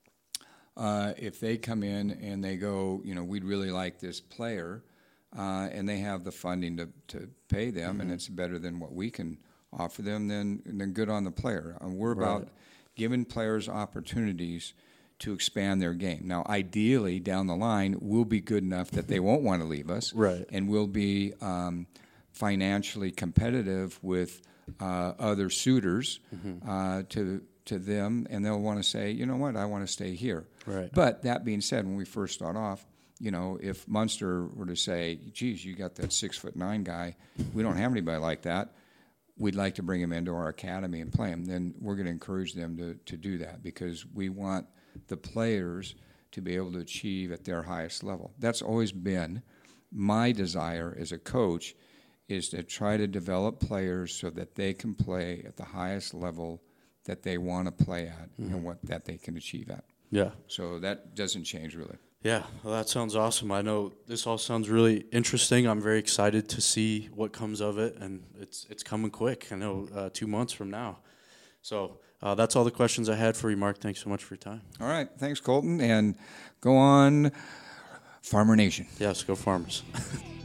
uh, if they come in and they go, you know, we'd really like this player, uh, and they have the funding to, to pay them, mm-hmm. and it's better than what we can offer them, then then good on the player. Uh, we're right. about giving players opportunities to expand their game. Now, ideally, down the line, we'll be good enough that they won't want to leave us, right. and we'll be um, financially competitive with uh, other suitors mm-hmm. uh, to to them, and they'll want to say, you know what, I want to stay here. Right. But that being said, when we first start off, you know, if Munster were to say, geez, you got that six foot nine guy, we don't have anybody like that, we'd like to bring him into our academy and play him, then we're going to encourage them to, to do that because we want the players to be able to achieve at their highest level. That's always been my desire as a coach, is to try to develop players so that they can play at the highest level that they want to play at mm-hmm. and what that they can achieve at. Yeah. So that doesn't change really. Yeah, well, that sounds awesome. I know this all sounds really interesting. I'm very excited to see what comes of it, and it's it's coming quick. I know uh, two months from now. So uh, that's all the questions I had for you, Mark. Thanks so much for your time. All right. Thanks, Colton. And go on, Farmer Nation. Yes, go Farmers.